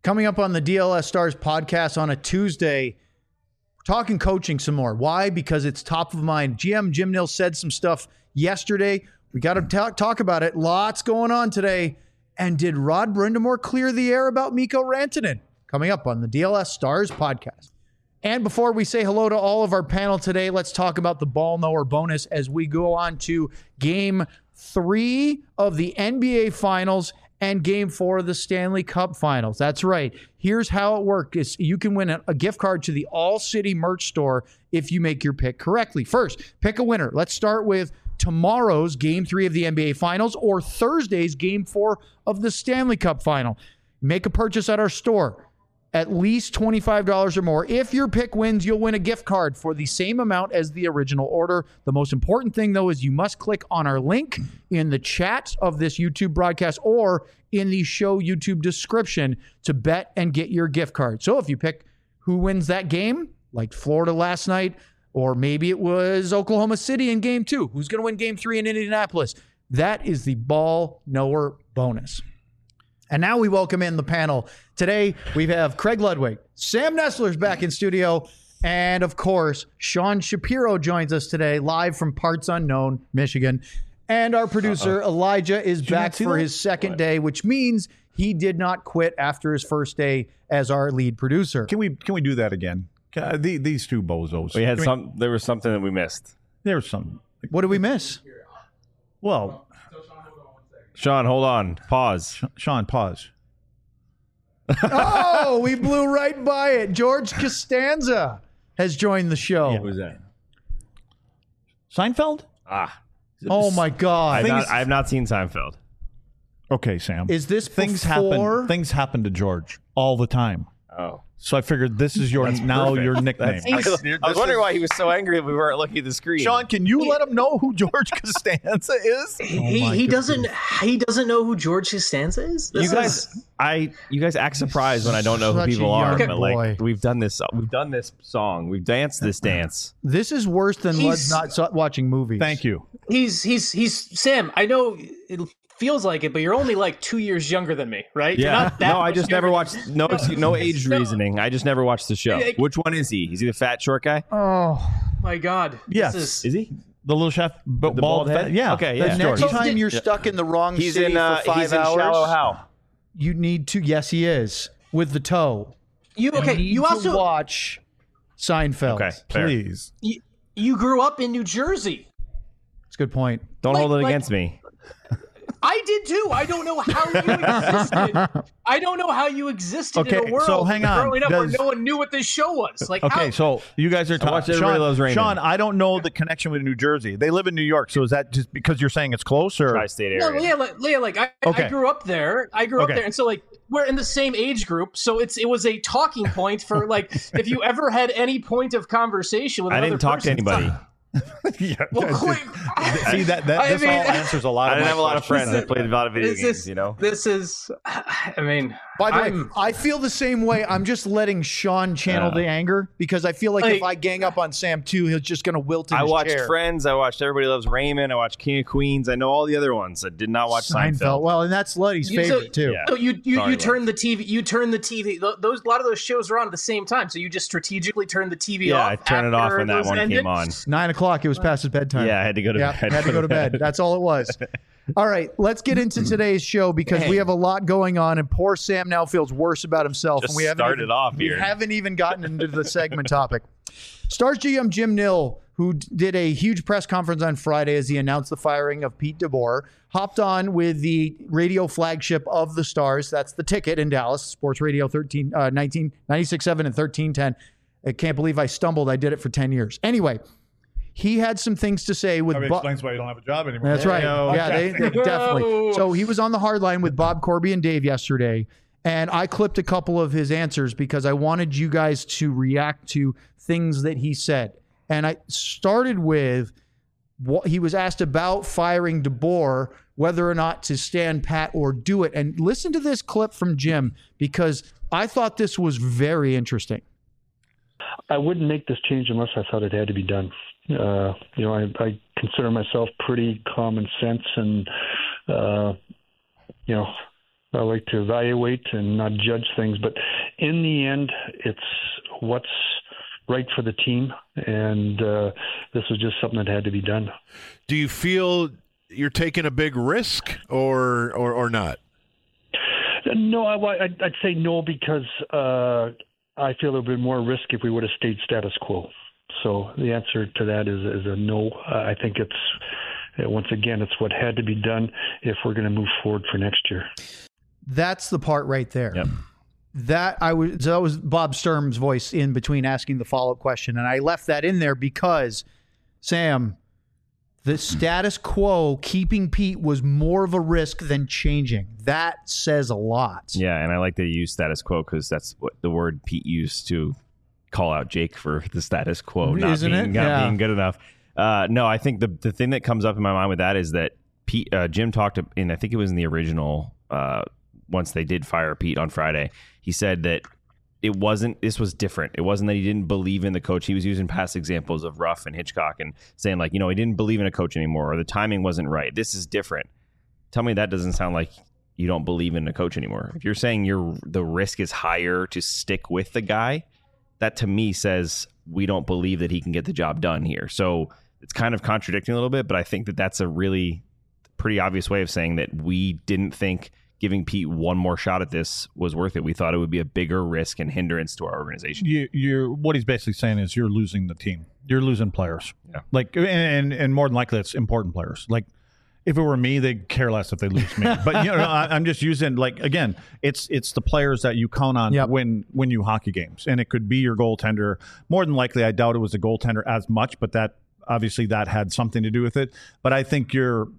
Coming up on the DLS Stars podcast on a Tuesday, we're talking coaching some more. Why? Because it's top of mind. GM Jim Nill said some stuff yesterday. We got to talk about it. Lots going on today. And did Rod Brindamore clear the air about Mikko Rantanen? Coming up on the DLS Stars podcast. And before we say hello to all of our panel today, let's talk about the Ball Knower bonus as we go on to Game 3 of the NBA Finals and Game 4 of the Stanley Cup Finals. That's right. Here's how it works. You can win a gift card to the All City merch store if you make your pick correctly. First, pick a winner. Let's start with tomorrow's Game 3 of the NBA Finals or Thursday's Game 4 of the Stanley Cup Final. Make a purchase at our store. At least $25 or more. If your pick wins, you'll win a gift card for the same amount as the original order. The most important thing, though, is you must click on our link in the chat of this YouTube broadcast or in the show YouTube description to bet and get your gift card. So if you pick who wins that game, like Florida last night, or maybe it was Oklahoma City in Game 2, who's going to win Game 3 in Indianapolis? That is the Ball Knower bonus. And now we welcome in the panel. Today, we have Craig Ludwig, Sam Nestler's back in studio, and of course, Sean Shapiro joins us today, live from Parts Unknown, Michigan. And our producer, Elijah, is back for his second day, which means he did not quit after his first day as our lead producer. Can we do that again? These two bozos. There was something that we missed. There was something. What did we miss? Well, Sean, hold on. Pause. Sean, pause. Oh, we blew right by it. George Costanza has joined the show. What was that? Seinfeld? Oh, my God. I have not seen Seinfeld. Okay, Sam. Is this things before? happen? Things happen to George all the time. Oh. So I figured this is your perfect. your nickname. I was wondering why he was so angry that we weren't looking at the screen. Sean, can you let him know who George Costanza is? He doesn't know who George Costanza is. You guys act surprised when I don't know who Such a people are. young But boy. like we've done this song, we've danced this dance. This is worse than watching movies. Thank you. He's Sam. I know it feels like it, but you're only like 2 years younger than me, right? You're Yeah. not that No, I much just never younger. watched. No age reasoning. I just never watched the show. Which one is he? Is he the fat short guy? Oh, My God. Yes. This Is he? The little chef, bald head? Yeah. Okay, the yeah. next George. time you're stuck in the wrong He's city in. for 5 He's in hours, Shallow Hal. you need to. Yes, he is with the toe. You need You to also watch Seinfeld. Okay, fair. Please. you grew up in New Jersey. That's a good point. Don't hold it Like- against me. I did too. I don't know how you existed. I don't know how you existed in Okay, a world so hang on. growing up where Does- no one knew what this show was. Like, Okay, how? so you guys are watched talking. Everybody Loves Raymond. Sean, I don't know the connection with New Jersey. They live in New York, so is that just because you're saying it's close, or Tri-state No, area. Leah, I Okay. grew up there. Okay. And so like we're in the same age group, so it was a talking point for like if you ever had any point of conversation with I another didn't talk to person. anybody. yeah, Well, see that I this mean- all answers a lot. I of didn't my have a lot of questions. friends that played a lot of video This games. is- You know. This is, I mean, By the way, I'm- I feel the same way. I'm just letting Sean channel the anger because I feel like if I gang up on Sam too, he's just going to wilt in I his watched chair. Friends. I watched Everybody Loves Raymond. I watched King of Queens. I know all the other ones. I did not watch Seinfeld. Well, and that's Luddy's favorite too. Yeah. So you Sorry, turn the TV. You turn the TV. Those a lot of those shows were on at the same time. So you just strategically turn the TV Yeah, off. I turned it off after when that those one ended. came on. 9:00. It was past his bedtime. Yeah, I had to go to Yeah, bed. had to go to bed. That's all it was. All right, let's get into today's show because we have a lot going on, and poor Sam now feels worse about himself. Just and we haven't started even, off we here. haven't even gotten into the segment topic. Stars GM Jim Nill, who did a huge press conference on Friday as he announced the firing of Pete DeBoer, hopped on with the radio flagship of the Stars. That's the Ticket in Dallas, Sports Radio 96.7 and 1310. I can't believe I stumbled. I did it for 10 years. Anyway, he had some things to say with explains why you don't have a job anymore. That's right. Yeah, they definitely. Whoa. So he was on the hard line with Bob Corby and Dave yesterday, and I clipped a couple of his answers because I wanted you guys to react to things that he said. And I started with what he was asked about firing DeBoer, whether or not to stand pat or do it. And listen to this clip from Jim because I thought this was very interesting. I wouldn't make this change unless I thought it had to be done. I consider myself pretty common sense, and I like to evaluate and not judge things, but in the end, it's what's right for the team, and this was just something that had to be done. Do you feel you're taking a big risk or not? No, I'd say no, because I feel there would be more risk if we would have stayed status quo. So the answer to that is a no. I think once again, it's what had to be done if we're going to move forward for next year. That's the part right there. Yep. That was Bob Sturm's voice in between asking the follow-up question. And I left that in there because, Sam, the status quo, keeping Pete, was more of a risk than changing. That says a lot. Yeah, and I like that you use status quo because that's what the word Pete used to call out Jake for the status quo not being good enough. No, I think the thing that comes up in my mind with that is that Jim talked in, I think it was in the original, once they did fire Pete on Friday, he said that this was different. It wasn't that he didn't believe in the coach. He was using past examples of Ruff and Hitchcock and saying he didn't believe in a coach anymore, or the timing wasn't right. This is different. Tell me that doesn't sound like you don't believe in a coach anymore. If you're saying the risk is higher to stick with the guy, that to me says we don't believe that he can get the job done here. So it's kind of contradicting a little bit, but I think that that's a really pretty obvious way of saying that we didn't think giving Pete one more shot at this was worth it. We thought it would be a bigger risk and hindrance to our organization. What he's basically saying is you're losing the team. You're losing players. Yeah. And more than likely it's important players. If it were me, they'd care less if they lose me. But I'm just using again, it's the players that you count on when you hockey games, and it could be your goaltender. More than likely, I doubt it was the goaltender as much, but that obviously that had something to do with it. But I think Sean,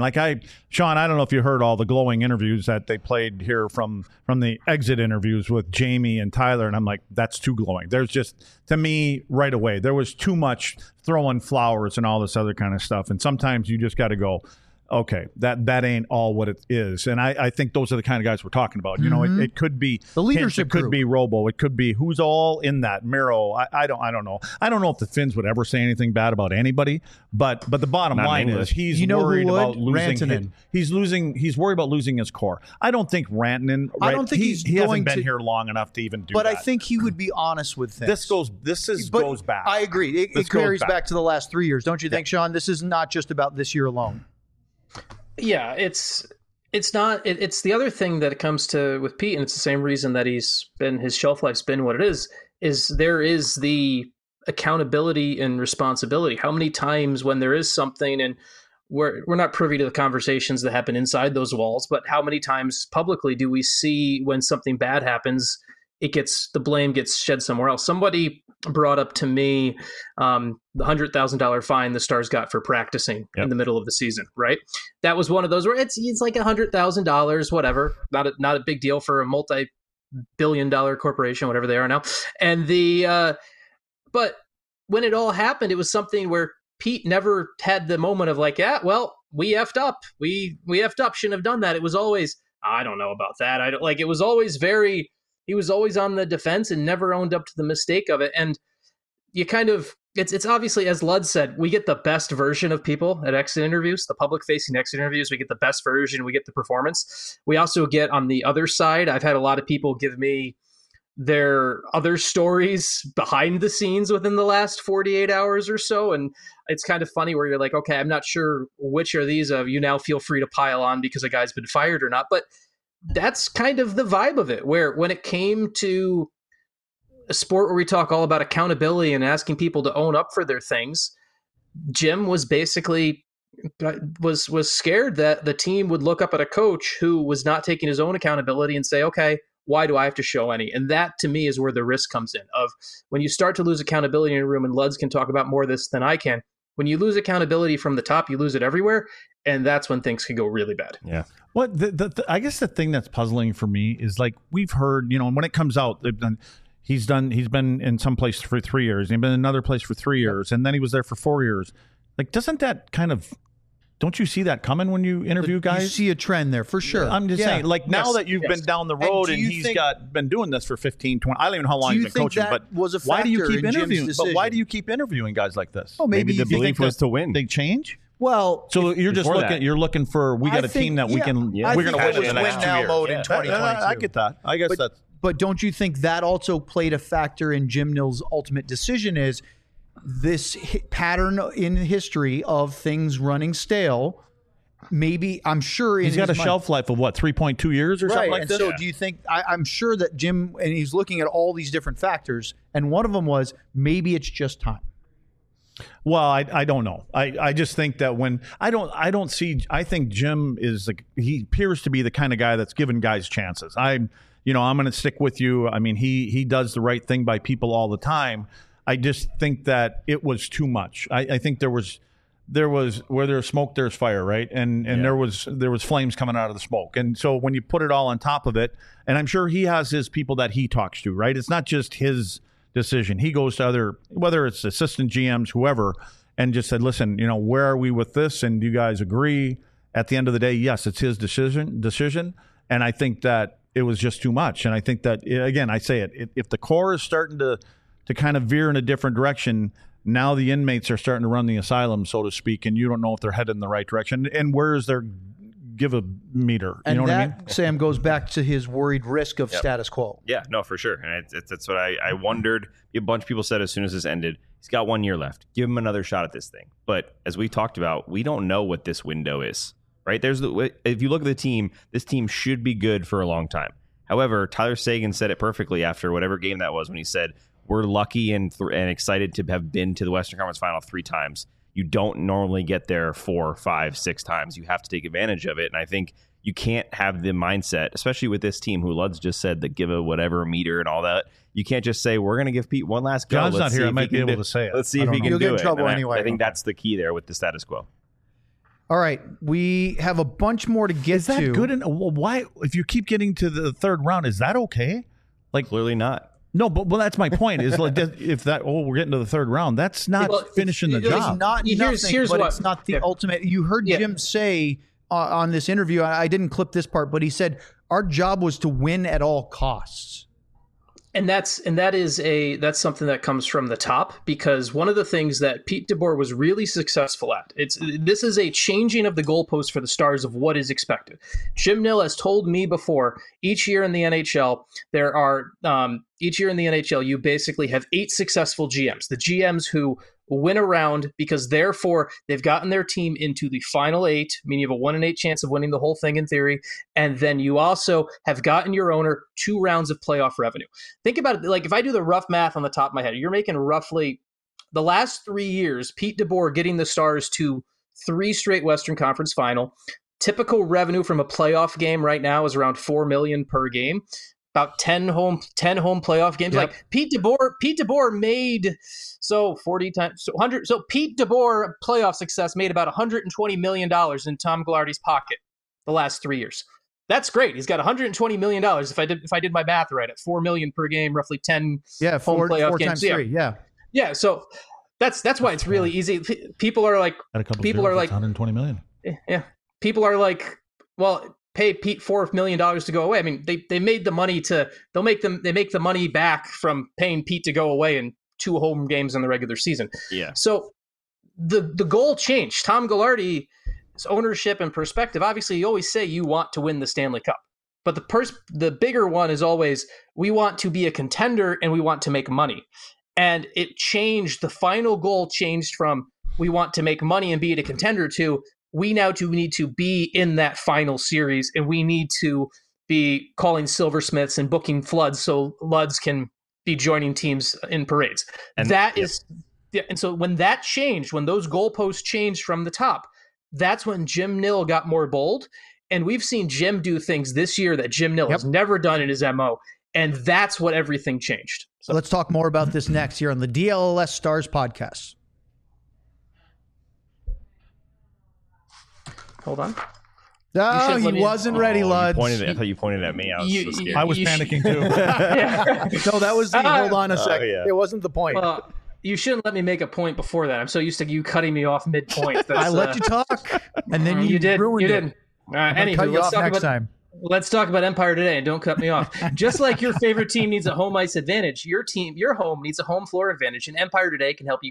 I don't know if you heard all the glowing interviews that they played here from the exit interviews with Jamie and Tyler, and I'm like, that's too glowing. There's just, to me, right away, there was too much throwing flowers and all this other kind of stuff. And sometimes you just got to go, okay, that ain't all what it is. And I think those are the kind of guys we're talking about. It could be the leadership group. It could be Robo. It could be who's all in that. Miro. I don't know. I don't know if the Finns would ever say anything bad about anybody. But the bottom line is he's worried about losing. He's worried about losing his core. I don't think Rantanen. Right, I don't think he hasn't been here long enough to even do that. But I think he would be honest with things. This goes back. I agree. It carries back to the last 3 years, don't you think, Sean? This is not just about this year alone. Yeah, it's not. It's the other thing that it comes to with Pete, and it's the same reason that his shelf life's been what it is there is the accountability and responsibility. How many times when there is something, and we're not privy to the conversations that happen inside those walls, but how many times publicly do we see when something bad happens, the blame gets shed somewhere else? Somebody brought up to me the $100,000 fine the Stars got for practicing in the middle of the season, right? That was one of those where it's like $100,000, whatever, not a big deal for a multi-billion-dollar corporation, whatever they are now. And but when it all happened, it was something where Pete never had the moment of we effed up. We effed up, shouldn't have done that. It was always, I don't know about that. It was always he was always on the defense and never owned up to the mistake of it. And you kind of, it's obviously, as Lud said, we get the best version of people at exit interviews, the public facing exit interviews. We get the best version. We get the performance. We also get on the other side. I've had a lot of people give me their other stories behind the scenes within the last 48 hours or so. And it's kind of funny where you're like, okay, I'm not sure which are these of you. Now feel free to pile on because a guy's been fired or not. But that's kind of the vibe of it, where when it came to a sport where we talk all about accountability and asking people to own up for their things, Jim was basically was scared that the team would look up at a coach who was not taking his own accountability and say, okay, why do I have to show any? And that to me is where the risk comes in, of when you start to lose accountability in a room, and Luds can talk about more of this than I can. When you lose accountability from the top, you lose it everywhere. And that's when things could go really bad. Yeah. Well, I guess the thing that's puzzling for me is we've heard, when it comes out, he's been in some place for 3 years. He's been in another place for 3 years. And then he was there for 4 years. Doesn't that kind of, don't you see that coming when you interview guys? You see a trend there for sure. I'm just saying, now that you've been down the road and he's been doing this for 15, 20, I don't even know how long he's been coaching, but why do you keep interviewing? But why do you keep interviewing guys like this? Oh, maybe the belief was to win. They change? Well, so you're just looking for we got a team that we can. Yeah. We're going to win now mode in 2022. I get that. I guess that's. But don't you think that also played a factor in Jim Nill's ultimate decision? Is this pattern in history of things running stale? Maybe I'm sure he's got a shelf life of what 3.2 years or something like and this. So do you think? I'm sure that Jim and he's looking at all these different factors, and one of them was maybe it's just time. Well, I don't know. I just think that when I think Jim is he appears to be the kind of guy that's giving guys chances. I'm going to stick with you. I mean, he does the right thing by people all the time. I just think that it was too much. I think there was where there's smoke, there's fire, right? And there was flames coming out of the smoke. And so when you put it all on top of it, and I'm sure he has his people that he talks to, right? It's not just his decision. He goes to other, whether it's assistant GMs, whoever, and just said, listen, where are we with this? And do you guys agree? At the end of the day, yes, it's his decision. And I think that it was just too much. And I think that, again, I say it, if the core is starting to kind of veer in a different direction, now the inmates are starting to run the asylum, so to speak, and you don't know if they're headed in the right direction. And where is their give a meter? You know what I mean? Sam, goes back to his worried risk of status quo. Yeah, no, for sure. And that's what I wondered. A bunch of people said as soon as this ended, he's got 1 year left. Give him another shot at this thing. But as we talked about, we don't know what this window is, right? If you look at the team, this team should be good for a long time. However, Tyler Seguin said it perfectly after whatever game that was when he said, we're lucky and excited to have been to the Western Conference Final 3 times. You don't normally get there 4, 5, 6 times. You have to take advantage of it. And I think you can't have the mindset, especially with this team who Luds just said that give a whatever meter and all that. You can't just say, we're going to give Pete one last go. John's not here. I might be able to say it. Let's see if he can do it. You'll get in trouble anyway. I think that's the key there with the status quo. All right, we have a bunch more to get to. Is that good? Why, if you keep getting to the third round, is that okay? Clearly not. No, but that's my point. Is we're getting to the third round. That's not finishing the job. It's not nothing, but it's not the ultimate. You heard Jim say on this interview. I didn't clip this part, but he said our job was to win at all costs. And that's something that comes from the top, because one of the things that Pete DeBoer was really successful at, this is a changing of the goalpost for the Stars of what is expected. Jim Nill has told me before, each year in the NHL, you basically have 8 successful GMs. The GMs who win around because therefore they've gotten their team into the final 8, meaning you have a 1 in 8 chance of winning the whole thing in theory. And then you also have gotten your owner 2 rounds of playoff revenue. Think about it. If I do the rough math on the top of my head, you're making roughly the last 3 years, Pete DeBoer getting the Stars to 3 straight Western Conference final. Typical revenue from a playoff game right now is around $4 million per game. About 10 home playoff games. Yep. Pete DeBoer made 40 times 100. So Pete DeBoer playoff success made about $120 million in Tom Gaglardi's pocket the last 3 years. That's great. He's got $120 million. If I did my math right, at $4 million per game, roughly 10 home playoff games. Times 3, yeah. So that's why it's really easy. People are like, $120 million. Yeah. People are like, well, pay Pete $4 million to go away. I mean, they made the money they make the money back from paying Pete to go away in 2 home games in the regular season. Yeah. So the goal changed. Tom Gaglardi's ownership and perspective. Obviously, you always say you want to win the Stanley Cup, but the bigger one is always we want to be a contender and we want to make money. And it changed. The final goal changed from we want to make money and be a contender to we now need to be in that final series, and we need to be calling silversmiths and booking floods so Luds can be joining teams in parades. And so when that changed, when those goalposts changed from the top, that's when Jim Nill got more bold. And we've seen Jim do things this year that Jim Nill has never done in his MO. And that's what everything changed. So let's talk more about this next here on the DLLS Stars podcast. Hold on. No, he wasn't ready, Luds. I thought you pointed at me. I was so scared. I was panicking too. No, that was the hold on a second. It wasn't the point. You shouldn't let me make a point before that. I'm so used to you cutting me off mid-point. I let you talk, and then you did. ruined you it. Didn't. Anywho, let's talk about Empire Today, and don't cut me off. Just like your favorite team needs a home ice advantage, your home needs a home floor advantage, and Empire Today can help you get it.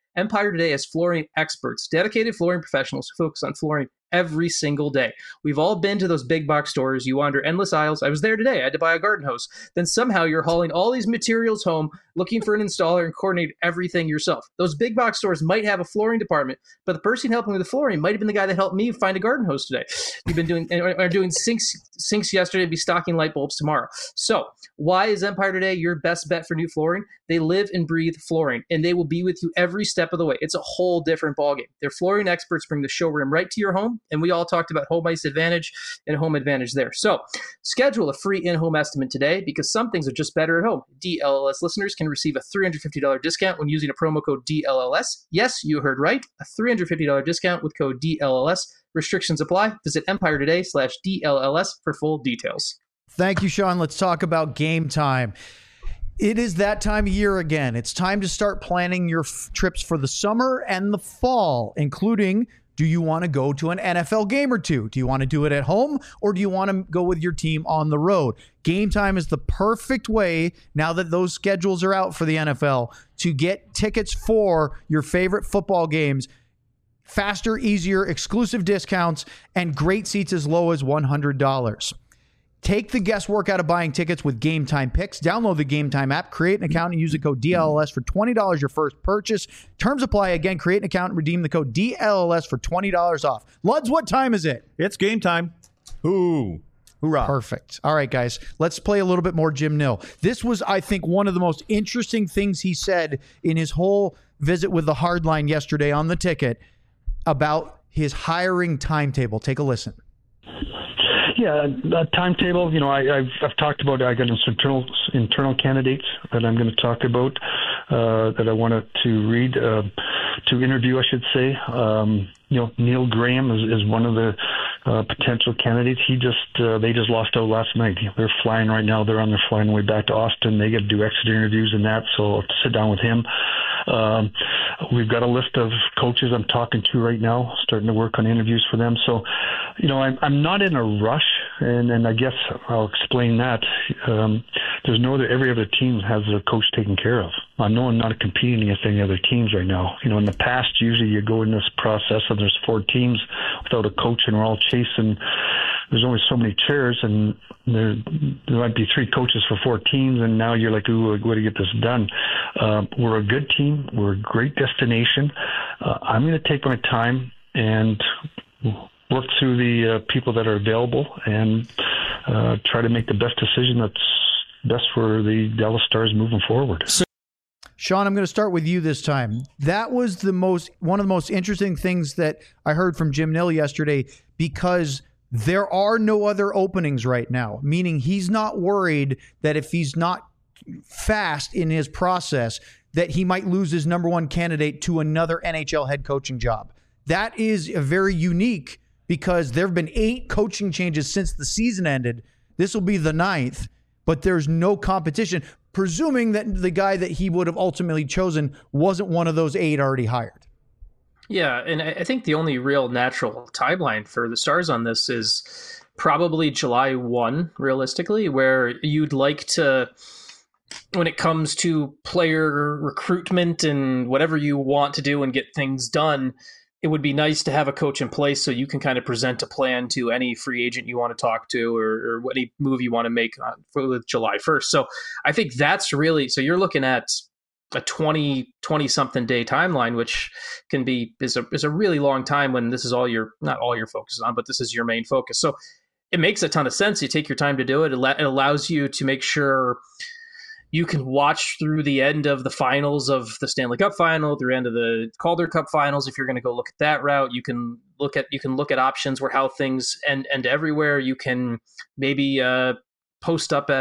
Empire Today has flooring experts, dedicated flooring professionals who focus on flooring every single day. We've all been to those big box stores. You wander endless aisles. I was there today. I had to buy a garden hose. Then somehow you're hauling all these materials home, looking for an installer and coordinate everything yourself. Those big box stores might have a flooring department, but the person helping with the flooring might have been the guy that helped me find a garden hose today. You've been doing sinks yesterday, be stocking light bulbs tomorrow. So why is Empire Today your best bet for new flooring? They live and breathe flooring, and they will be with you every step of the way. It's a whole different ballgame. Their flooring experts bring the showroom right to your home, and we all talked about Home Ice Advantage and Home Advantage there. So schedule a free in-home estimate today, because some things are just better at home. DLLS listeners can receive a $350 discount when using a promo code DLLS. Yes, you heard right. A $350 discount with code DLLS. Restrictions apply. Visit EmpireToday/DLLS for full details. Thank you, Sean. Let's talk about Game Time. It is that time of year again. It's time to start planning your trips for the summer and the fall, including, do you want to go to an NFL game or two? Do you want to do it at home, or do you want to go with your team on the road? Game Time is the perfect way, now that those schedules are out for the NFL, to get tickets for your favorite football games. Faster, easier, exclusive discounts, and great seats as low as $100. Take the guesswork out of buying tickets with Game Time Picks. Download the Game Time app, create an account, and use the code DLLS for $20 your first purchase. Terms apply. Again, create an account and redeem the code DLLS for $20 off. Luds, what time is it? It's game time. Ooh. Hoorah. Perfect. All right, guys, let's play a little bit more Jim Nill. This was, I think, one of the most interesting things he said in his whole visit with the Hardline yesterday on the ticket about his hiring timetable. Take a listen. Yeah, a timetable. I've talked about. I got some internal candidates that I'm going to talk about that I wanted to read to interview, I should say. Neil Graham is one of the potential candidates. They just lost out last night. They're flying right now. They're flying their way back to Austin. They get to do exit interviews and that. So I'll sit down with him. We've got a list of coaches I'm talking to right now, starting to work on interviews for them. So, I'm not in a rush, and I guess I'll explain that. There's every other team has a coach taken care of. I know I'm not competing against any other teams right now. In the past, usually you go in this process and there's 4 teams without a coach, and we're all chasing. There's only so many chairs, and there might be 3 coaches for 4 teams, and now you're like, ooh, what to get this done? We're a good team. We're a great destination. I'm going to take my time and work through the people that are available and try to make the best decision that's best for the Dallas Stars moving forward. Sean, I'm going to start with you this time. That was one of the most interesting things that I heard from Jim Nill yesterday, because there are no other openings right now, meaning he's not worried that if he's not fast in his process, that he might lose his number one candidate to another NHL head coaching job. That is very unique, because there have been 8 coaching changes since the season ended. This will be the 9th, but there's no competition, presuming that the guy that he would have ultimately chosen wasn't one of those 8 already hired. Yeah, and I think the only real natural timeline for the Stars on this is probably July 1, realistically, where you'd like to, when it comes to player recruitment and whatever you want to do and get things done, it would be nice to have a coach in place so you can kind of present a plan to any free agent you want to talk to, or any move you want to make for July 1st. So I think that's really, so you're looking at a 20 something day timeline, which is a really long time when this is not all your focus on, but this is your main focus. So it makes a ton of sense. You take your time to do it. It allows you to make sure you can watch through the end of the finals of the Stanley Cup final, through the end of the Calder Cup finals. If you're going to go look at that route, you can look at options where how things end everywhere. You can maybe post up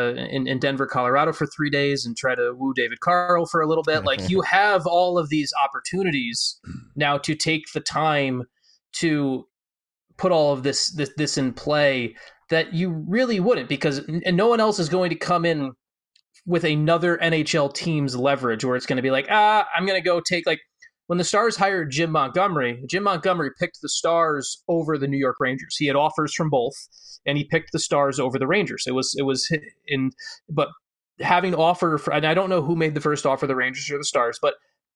in Denver, Colorado for 3 days and try to woo David Carl for a little bit. Like, you have all of these opportunities now to take the time to put all of this in play that you really wouldn't, because no one else is going to come in with another NHL team's leverage where it's going to be like, I'm going to go take, like, when the Stars hired Jim Montgomery picked the Stars over the New York Rangers. He had offers from both, and he picked the Stars over the Rangers. But having offer and I don't know who made the first offer, the Rangers or the Stars, but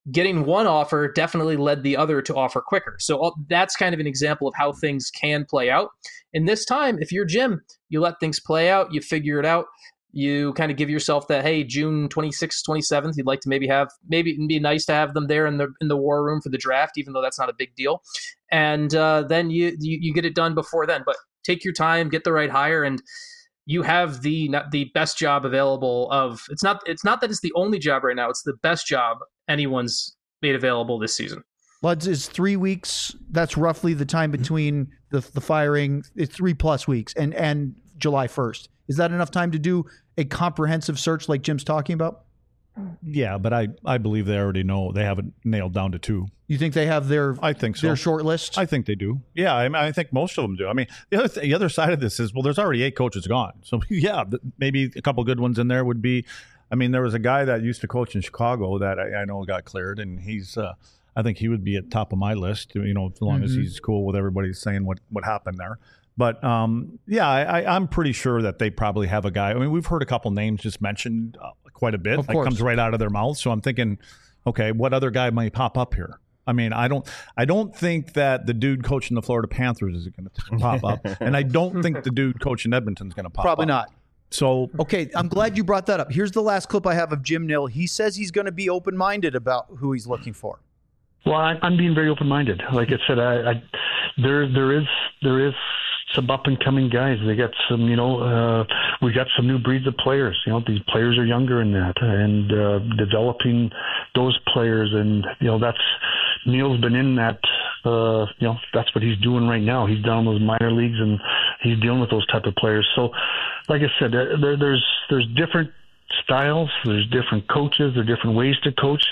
getting one offer definitely led the other to offer quicker. So that's kind of an example of how things can play out. And this time, if you're Jim, you let things play out, you figure it out. You kind of give yourself that, hey, June 26th, 27th, you'd like to maybe it'd be nice to have them there in the war room for the draft, even though that's not a big deal. And then you get it done before then. But take your time, get the right hire, and you have the best job available it's not that it's the only job right now. It's the best job anyone's made available this season. Luds, is 3 weeks. That's roughly the time between the firing. It's 3+ weeks and July 1st. Is that enough time to do a comprehensive search like Jim's talking about? Yeah, but I believe they already know. They have it nailed down to 2. You think they have their? I think so. Their short list. I think they do. Yeah, I think most of them do. I mean, the other side of this is, well, there's already 8 coaches gone. So yeah, maybe a couple good ones in there would be. I mean, there was a guy that used to coach in Chicago that I know got cleared, and he's. I think he would be at top of my list. You know, as long as he's cool with everybody saying what happened there. But yeah, I'm pretty sure that they probably have a guy. I mean, we've heard a couple names just mentioned quite a bit. That comes right out of their mouth. So I'm thinking, okay, what other guy might pop up here? I mean, I don't think that the dude coaching the Florida Panthers is going to pop up, and I don't think the dude coaching Edmonton is going to pop up. Probably not. So okay, I'm glad you brought that up. Here's the last clip I have of Jim Nill. He says he's going to be open-minded about who he's looking for. Well, I'm being very open-minded. Like I said, there is some up-and-coming guys. They got some, we got some new breeds of players. These players are younger in that, and developing those players. And, that's Neil's been in that, that's what he's doing right now. He's down in those minor leagues, and he's dealing with those type of players. So, like I said, there's different styles, there's different coaches, there are different ways to coach.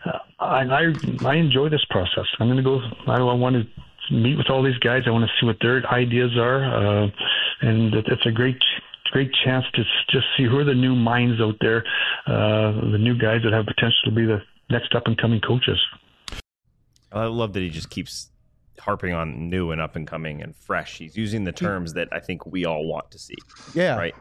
I enjoy this process. I'm going to go. I want to meet with all these guys. I want to see what their ideas are, and it's a great chance to just see who are the new minds out there, the new guys that have potential to be the next up and coming coaches. I love that he just keeps harping on new and up and coming and fresh. He's using the terms that I think we all want to see. Yeah. Right.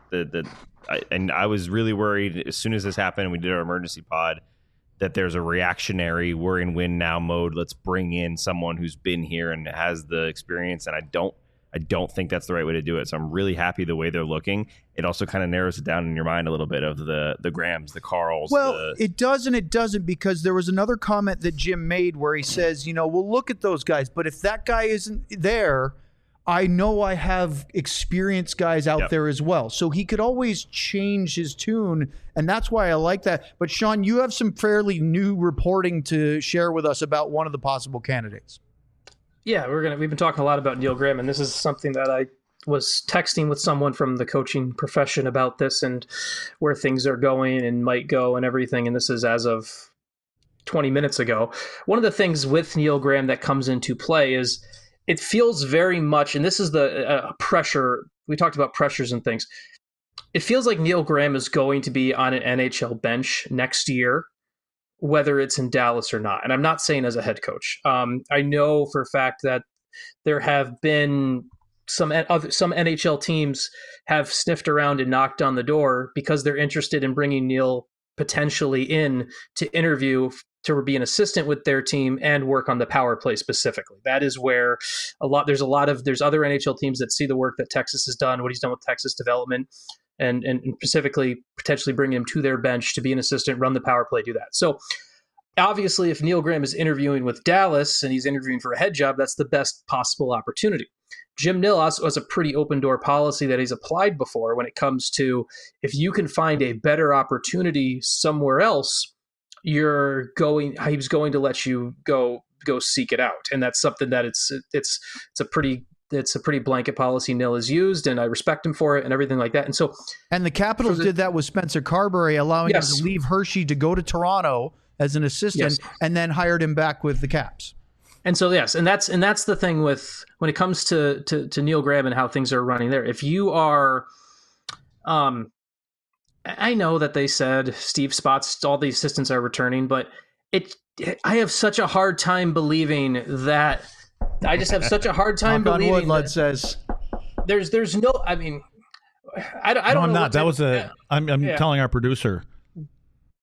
And I was really worried as soon as this happened and we did our emergency pod that there's a reactionary we're in win now mode. Let's bring in someone who's been here and has the experience. And I don't think that's the right way to do it. So I'm really happy the way they're looking. It also kind of narrows it down in your mind a little bit of the Grahams, the Carls. Well, it does and it doesn't, because there was another comment that Jim made where he says, we'll look at those guys, but if that guy isn't there, I know I have experienced guys out there as well. So he could always change his tune, and that's why I like that. But Sean, you have some fairly new reporting to share with us about one of the possible candidates. Yeah, we've been talking a lot about Neil Graham, and this is something that I was texting with someone from the coaching profession about this and where things are going and might go and everything. And this is as of 20 minutes ago. One of the things with Neil Graham that comes into play is it feels very much, and this is the pressure. We talked about pressures and things. It feels like Neil Graham is going to be on an NHL bench next year, whether it's in Dallas or not. And I'm not saying as a head coach. I know for a fact that there have been some NHL teams have sniffed around and knocked on the door because they're interested in bringing Neil potentially in to interview to be an assistant with their team and work on the power play specifically. That is where there's other NHL teams that see the work that Texas has done, what he's done with Texas development, and specifically potentially bring him to their bench to be an assistant, run the power play, do that. So obviously if Neil Graham is interviewing with Dallas and he's interviewing for a head job, that's the best possible opportunity. Jim Nill also has a pretty open door policy that he's applied before when it comes to if you can find a better opportunity somewhere else, he was going to let you go seek it out. And that's something that it's a pretty blanket policy Nill has used, and I respect him for it and everything like that. And the Capitals did that with Spencer Carberry, allowing him to leave Hershey to go to Toronto as an assistant, and then hired him back with the Caps. And so, yes, and that's the thing with when it comes to Neil Graham and how things are running there. If you are, I know that they said Steve Spotts, all the assistants are returning, but I have such a hard time believing that. I just have such a hard time believing. Knock on wood, Lud says. There's no. I mean, I don't. No, I'm know not. That was I'm telling our producer.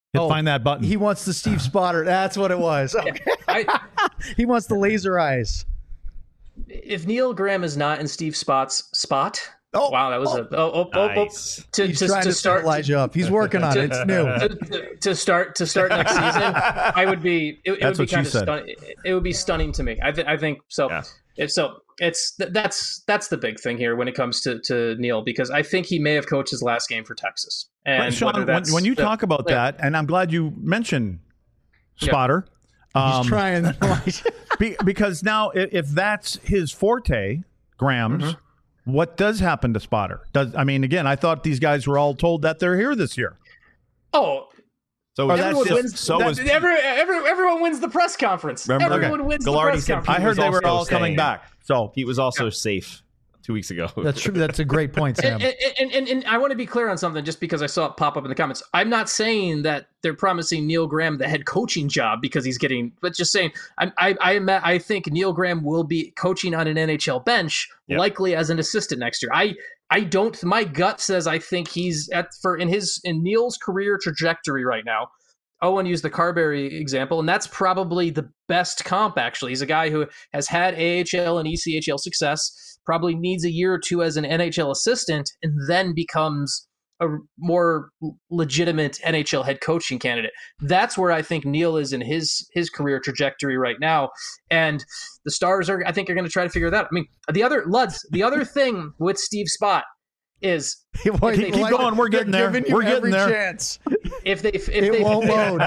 Find that button. He wants the Steve Spotter. That's what it was. Okay. He wants the laser eyes. If Neil Graham is not in Steve Spott's spot, wow, that was nice. He's trying to start Elijah up. He's working on it. It's new. To start next season, I would be. It would be kind of stunning. It would be stunning to me. I think so. Yeah. That's the big thing here when it comes to Neil, because I think he may have coached his last game for Texas. And Sean, when you talk about that, and I'm glad you mentioned Spotter. He's trying. Because now, if that's his forte, Graham's, what does happen to Spotter? Again, I thought these guys were all told that they're here this year. Oh. So everyone wins the press conference. Remember, everyone wins the press conference. I heard they were all coming back. So Pete was also safe 2 weeks ago. That's true. That's a great point, Sam. And I want to be clear on something, just because I saw it pop up in the comments. I'm not saying that they're promising Neil Graham the head coaching job because he's getting, but just saying I think Neil Graham will be coaching on an NHL bench, likely as an assistant next year. I don't. My gut says I think he's in Neil's career trajectory right now. Owen used the Carberry example, and that's probably the best comp. Actually, he's a guy who has had AHL and ECHL success. Probably needs a year or two as an NHL assistant, and then becomes a more legitimate NHL head coaching candidate. That's where I think Neil is in his career trajectory right now, and the Stars are going to try to figure that out. I mean, the other thing with Steve Spott is keep going. We're getting there. We're getting there. Chance. If they won't load.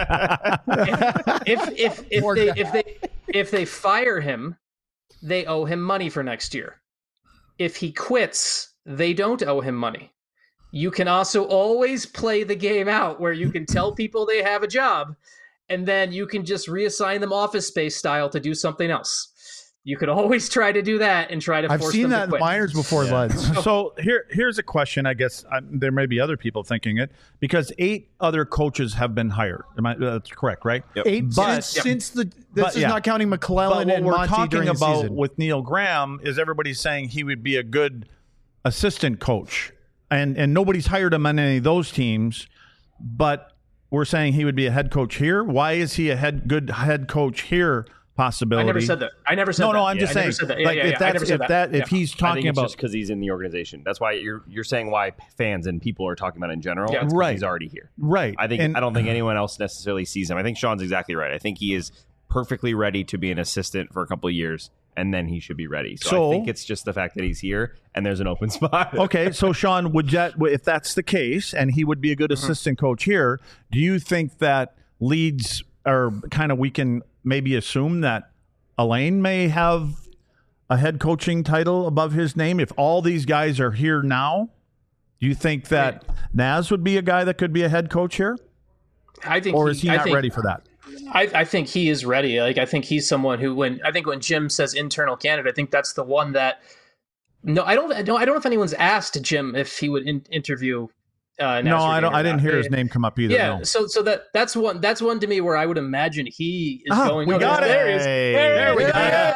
If they fire him, they owe him money for next year. If he quits, they don't owe him money. You can also always play the game out where you can tell people they have a job, and then you can just reassign them Office Space style to do something else. You could always try to do that and try to force them to quit. I've seen that in minors before, Luds. So here's a question. I guess there may be other people thinking it, because 8 other coaches have been hired. That's correct, right? Yep. 8 since this is not counting McClellan and Monty during the season. What we're talking about with Neil Graham is everybody's saying he would be a good assistant coach, and nobody's hired him on any of those teams, but we're saying he would be a head coach here. Why is he a good head coach here? Possibility. I never said that. No, I'm just saying. If he's talking about, just because he's in the organization, that's why you're saying why fans and people are talking about it in general. Yeah, right. He's already here. Right. I don't think anyone else necessarily sees him. I think Sean's exactly right. I think he is perfectly ready to be an assistant for a couple of years, and then he should be ready. So I think it's just the fact that he's here and there's an open spot. Okay, so Sean, if that's the case, and he would be a good assistant coach here, do you think that leads, or kind of we can maybe assume that Alain may have a head coaching title above his name if all these guys are here now? Do you think that Naz would be a guy that could be a head coach here? Or is he not ready for that? I think he is ready. I think he's someone who, when Jim says internal candidate, I think that's the one that. No, I don't know if anyone's asked Jim if he would interview. No, I didn't hear his name come up either. Yeah, no. so that's one to me where I would imagine he is going. We got it. There we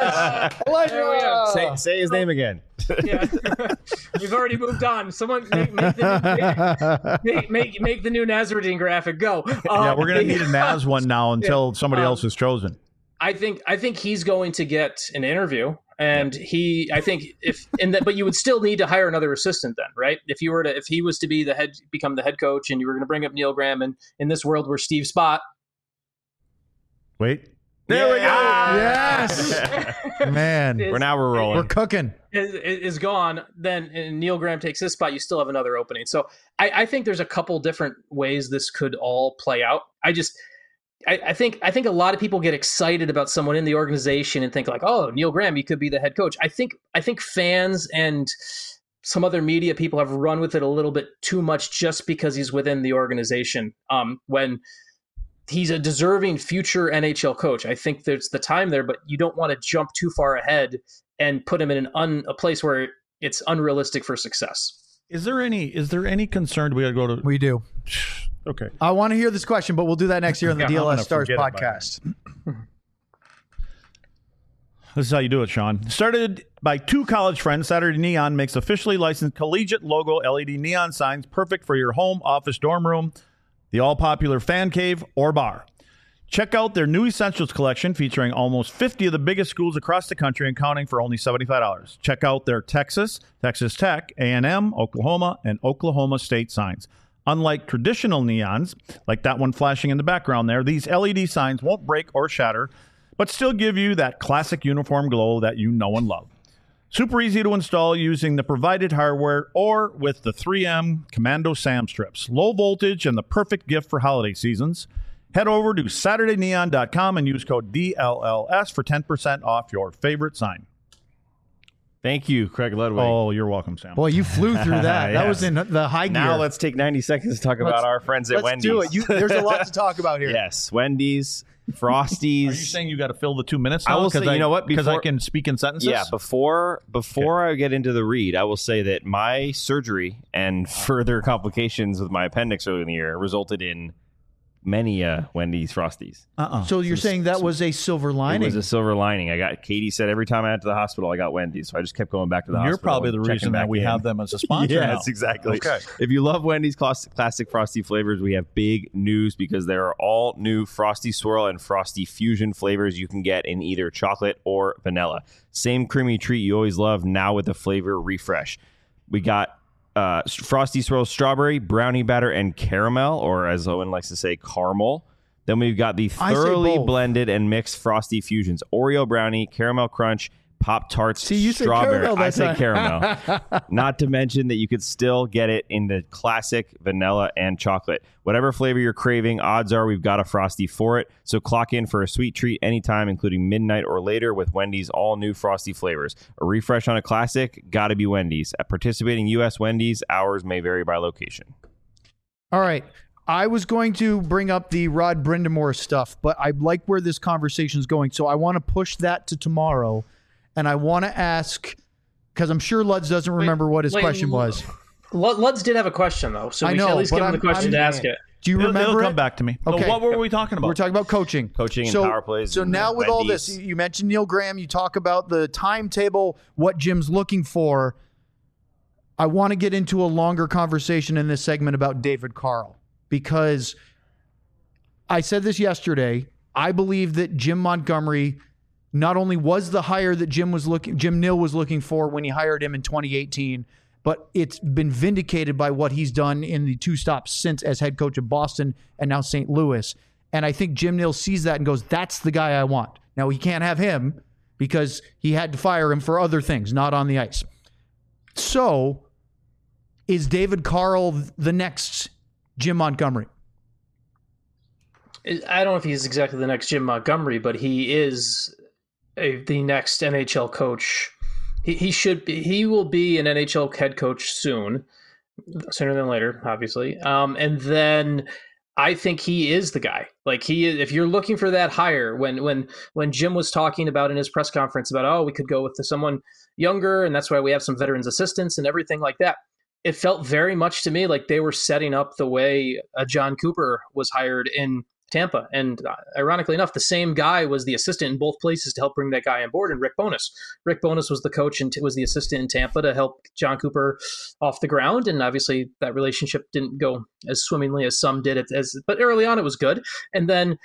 go. Say his name again. Yeah. We've already moved on. Someone make the new Nasruddin graphic go. Yeah, we're gonna need a Naz one now until somebody else is chosen. I think he's going to get an interview. And but you would still need to hire another assistant then, right? If he was to become the head coach, and you were going to bring up Neil Graham, and in this world where Steve Spott. Wait. There we go. Yes. Man. We're rolling. We're cooking. Is gone, then and Neil Graham takes his spot, you still have another opening. So I think there's a couple different ways this could all play out. I think a lot of people get excited about someone in the organization and think like, oh, Neil Graham, he could be the head coach. I think fans and some other media people have run with it a little bit too much just because he's within the organization. When he's a deserving future NHL coach, I think there's the time there, but you don't want to jump too far ahead and put him in a place where it's unrealistic for success. Is there any concern? We got to go to. We do. Okay. I want to hear this question, but we'll do that next year on the DLS Stars podcast. This is how you do it, Sean. Started by 2 college friends, Saturday Neon makes officially licensed collegiate logo LED neon signs perfect for your home, office, dorm room. the all-popular fan cave, or bar. Check out their new Essentials collection featuring almost 50 of the biggest schools across the country and counting for only $75. Check out their Texas, Texas Tech, A&M, Oklahoma, and Oklahoma State signs. Unlike traditional neons, like that one flashing in the background there, these LED signs won't break or shatter, but still give you that classic uniform glow that you know and love. Super easy to install using the provided hardware or with the 3M Commando SAM strips. Low voltage and the perfect gift for holiday seasons. Head over to SaturdayNeon.com and use code DLLS for 10% off your favorite sign. Thank you, Craig Ludwig. Oh, you're welcome, Sam. Boy, you flew through that. Yes. That was in the high gear. Now let's take 90 seconds to talk about our friends at Wendy's. Let's do it. There's a lot to talk about here. Yes, Wendy's, Frosties. Are you saying you got to fill the 2 minutes I now? will say, you know what? Because I can speak in sentences? Yeah, before I get into the read, I will say that my surgery and further complications with my appendix earlier in the year resulted in many Wendy's Frosties. So you're saying that was a silver lining? It was a silver lining. Katie said every time I went to the hospital, I got Wendy's. So I just kept going back to the hospital. You're probably the reason that we have them as a sponsor now. Yes, exactly. Okay. If you love Wendy's classic Frosty flavors, we have big news because there are all new Frosty Swirl and Frosty Fusion flavors you can get in either chocolate or vanilla. Same creamy treat you always love, now with a flavor refresh. We got Frosty Swirl Strawberry, Brownie Batter, and Caramel, or as Owen likes to say, caramel. Then we've got the thoroughly blended and mixed Frosty Fusions, Oreo Brownie, Caramel Crunch, Pop-Tarts, Strawberry. I say caramel. Not to mention that you could still get it in the classic vanilla and chocolate. Whatever flavor you're craving, odds are we've got a Frosty for it. So clock in for a sweet treat anytime, including midnight or later with Wendy's all new Frosty flavors. A refresh on a classic, gotta be Wendy's. At participating U.S. Wendy's, hours may vary by location. All right. I was going to bring up the Rod Brindamore stuff, but I like where this conversation is going. So I want to push that to tomorrow. And I want to ask, because I'm sure Luds doesn't remember what his question was. Luds did have a question, though. So we should at least give him the question to ask it. Do you remember It'll it? come back to me. Okay. So what were we talking about? We're talking about coaching. Coaching and power plays. So now with all this, you mentioned Neil Graham. You talk about the timetable, what Jim's looking for. I want to get into a longer conversation in this segment about David Carl. Because I said this yesterday. I believe that Jim Montgomery not only was the hire that Jim Nill was looking for when he hired him in 2018, but it's been vindicated by what he's done in the 2 stops since as head coach of Boston and now St. Louis. And I think Jim Nill sees that and goes, that's the guy I want. Now, he can't have him because he had to fire him for other things, not on the ice. So, is David Carl the next Jim Montgomery? I don't know if he's exactly the next Jim Montgomery, but he is the next NHL coach. He should be. He will be an NHL head coach sooner than later, obviously. And then I think he is the guy. Like he is. If you're looking for that hire, when Jim was talking about in his press conference about we could go with someone younger, and that's why we have some veterans assistants and everything like that. It felt very much to me like they were setting up the way John Cooper was hired in Tampa. And ironically enough, the same guy was the assistant in both places to help bring that guy on board, and Rick Bowness. Rick Bowness was the coach and was the assistant in Tampa to help John Cooper off the ground. And obviously that relationship didn't go as swimmingly as some did, but early on it was good. And then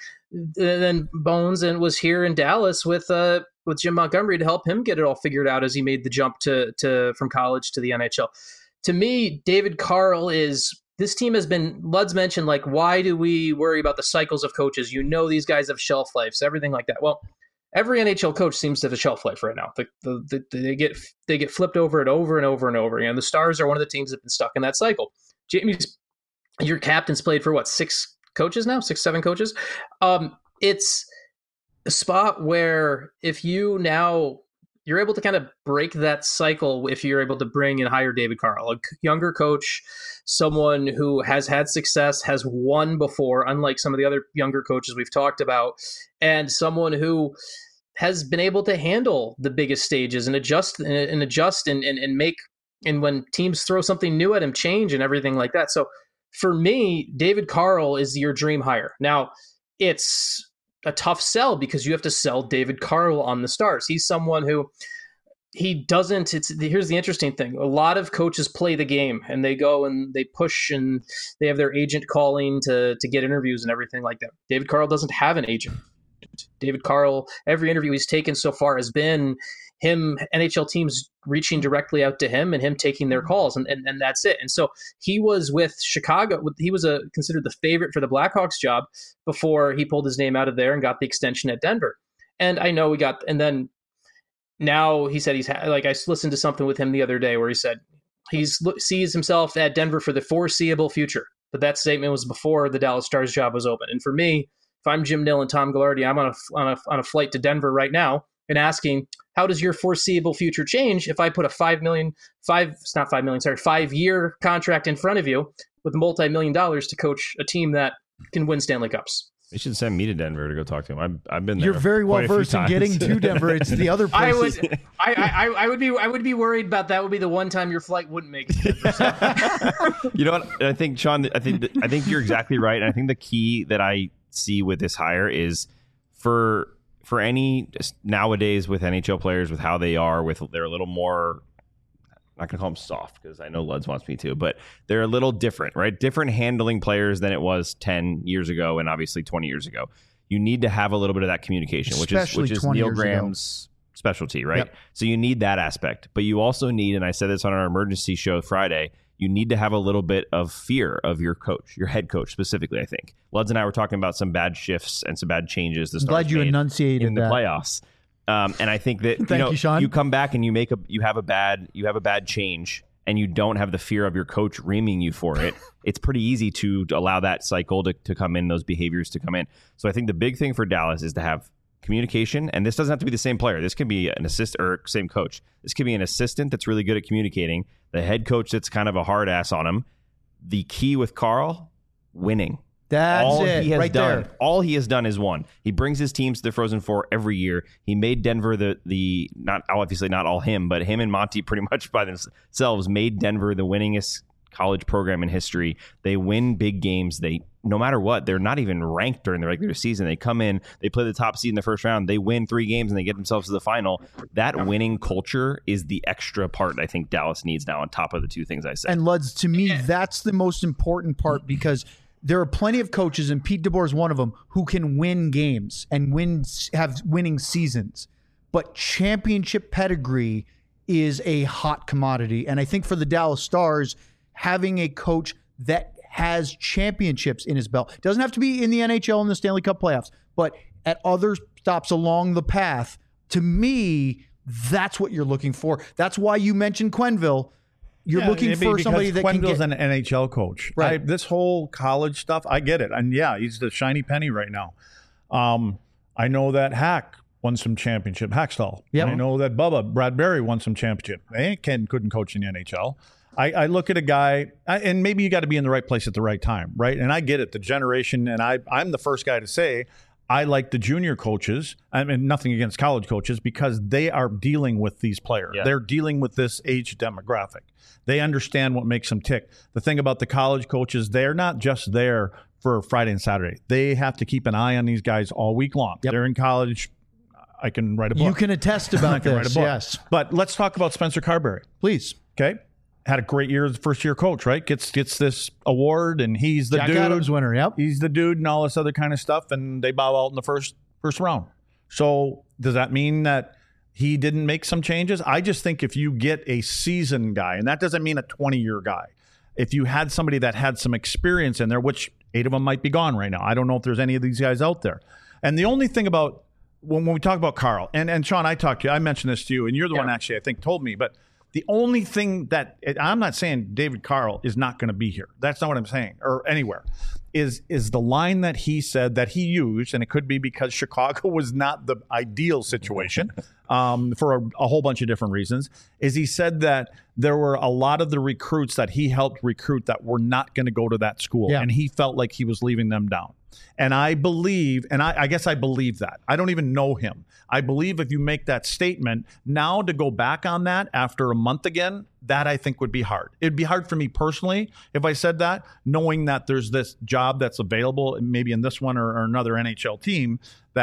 Bones was here in Dallas with Jim Montgomery to help him get it all figured out as he made the jump to from college to the NHL. To me, David Carl this team has been, Luds mentioned, like, why do we worry about the cycles of coaches? You know, these guys have shelf lives, everything like that. Well, every NHL coach seems to have a shelf life right now. They get flipped over and over and over and over. And the Stars are one of the teams that have been stuck in that cycle. Jamie's, your captain's played for 6 coaches now, 6-7 coaches. It's a spot where if you're able to kind of break that cycle if you're able to bring and hire David Carl, a younger coach, someone who has had success, has won before, unlike some of the other younger coaches we've talked about, and someone who has been able to handle the biggest stages and adjust and make, and when teams throw something new at him, change and everything like that. So for me, David Carl is your dream hire. Now, it's a tough sell because you have to sell David Carl on the Stars. He's someone who he doesn't. Here's the interesting thing. A lot of coaches play the game and they go and they push and they have their agent calling to get interviews and everything like that. David Carl doesn't have an agent. David Carl, every interview he's taken so far has been him, NHL teams reaching directly out to him and him taking their calls, and that's it. And so he was with Chicago. He was considered the favorite for the Blackhawks job before he pulled his name out of there and got the extension at Denver. And I know then now he said I listened to something with him the other day where he said he sees himself at Denver for the foreseeable future. But that statement was before the Dallas Stars job was open. And for me, if I'm Jim Nill and Tom Gaglardi, I'm on a flight to Denver right now and asking, how does your foreseeable future change if I put a 5-year contract in front of you with $multi-million to coach a team that can win Stanley Cups? They should send me to Denver to go talk to him. I've been there. You're very well versed in getting to Denver. It's the other places. I would be worried about that. Would be the one time your flight wouldn't make it to Denver, so. You know what? I think, Sean, I think you're exactly right. And I think the key that I see with this hire is for any nowadays with NHL players, with how they are, they're a little more, I'm not going to call them soft because I know Luds wants me to, but they're a little different, right? Different handling players than it was 10 years ago and obviously 20 years ago. You need to have a little bit of that communication, which is Neil Graham's specialty, right? Yep. So you need that aspect, but you also need, and I said this on our emergency show Friday, you need to have a little bit of fear of your coach, your head coach specifically, I think. Luds and I were talking about some bad shifts and some bad changes. I'm glad you enunciated in the playoffs. And I think that Thank you, Sean. You come back and you have a bad change and you don't have the fear of your coach reaming you for it. It's pretty easy to allow that cycle to come in, those behaviors to come in. So I think the big thing for Dallas is to have communication, and this doesn't have to be the same player. This can be an assistant or same coach. This could be an assistant that's really good at communicating, the head coach that's kind of a hard ass on him. The key with Carl, winning. That's all it, he has right done. there. All he has done is won. He brings his teams to the Frozen Four every year. He made Denver the not obviously not all him, but him and Monty pretty much by themselves made Denver the winningest college program in history. They win big games. They, no matter what, they're not even ranked during the regular season. They come in, they play the top seed in the first round, they win 3 games and they get themselves to the final. That winning culture is the extra part I think Dallas needs now on top of the 2 things I said. And Luds, to me, that's the most important part because there are plenty of coaches, and Pete DeBoer is one of them, who can win games and have winning seasons. But championship pedigree is a hot commodity. And I think for the Dallas Stars, having a coach that has championships in his belt, doesn't have to be in the NHL and the Stanley Cup playoffs, but at other stops along the path, to me, that's what you're looking for. That's why you mentioned Quenneville. You're looking for somebody that can get... an NHL coach. Right. This whole college stuff, I get it. And yeah, he's the shiny penny right now. I know that Hack won some championship. Hackstall. Yep. I know that Brad Berry won some championship. Ken couldn't coach in the NHL. I look at a guy, and maybe you got to be in the right place at the right time, right? And I get it, the generation, and I'm the first guy to say I like the junior coaches. I mean, nothing against college coaches because they are dealing with these players. Yeah. They're dealing with this age demographic. They understand what makes them tick. The thing about the college coaches, they're not just there for Friday and Saturday. They have to keep an eye on these guys all week long. Yep. They're in college. I can write a book. You can attest about this, yes. But let's talk about Spencer Carberry. Please. Okay. Had a great year as a first-year coach, right? Gets this award, and he's the Jack dude. Adams winner, yep. He's the dude and all this other kind of stuff, and they bow out in the first round. So does that mean that he didn't make some changes? I just think if you get a seasoned guy, and that doesn't mean a 20-year guy, if you had somebody that had some experience in there, which 8 of them might be gone right now. I don't know if there's any of these guys out there. And the only thing about when we talk about Carl, and Sean, I mentioned this to you, and you're the one actually I think told me, but the only thing that I'm not saying David Carl is not going to be here. That's not what I'm saying, or anywhere. Is the line that he said that he used, and it could be because Chicago was not the ideal situation for a whole bunch of different reasons, is he said that there were a lot of the recruits that he helped recruit that were not going to go to that school, and he felt like he was leaving them down. And I believe, and I guess I believe that. I don't even know him. I believe if you make that statement, now to go back on that after a month again, that I think would be hard. It'd be hard for me personally if I said that, knowing that there's this job that's available, maybe in this one or another NHL team, that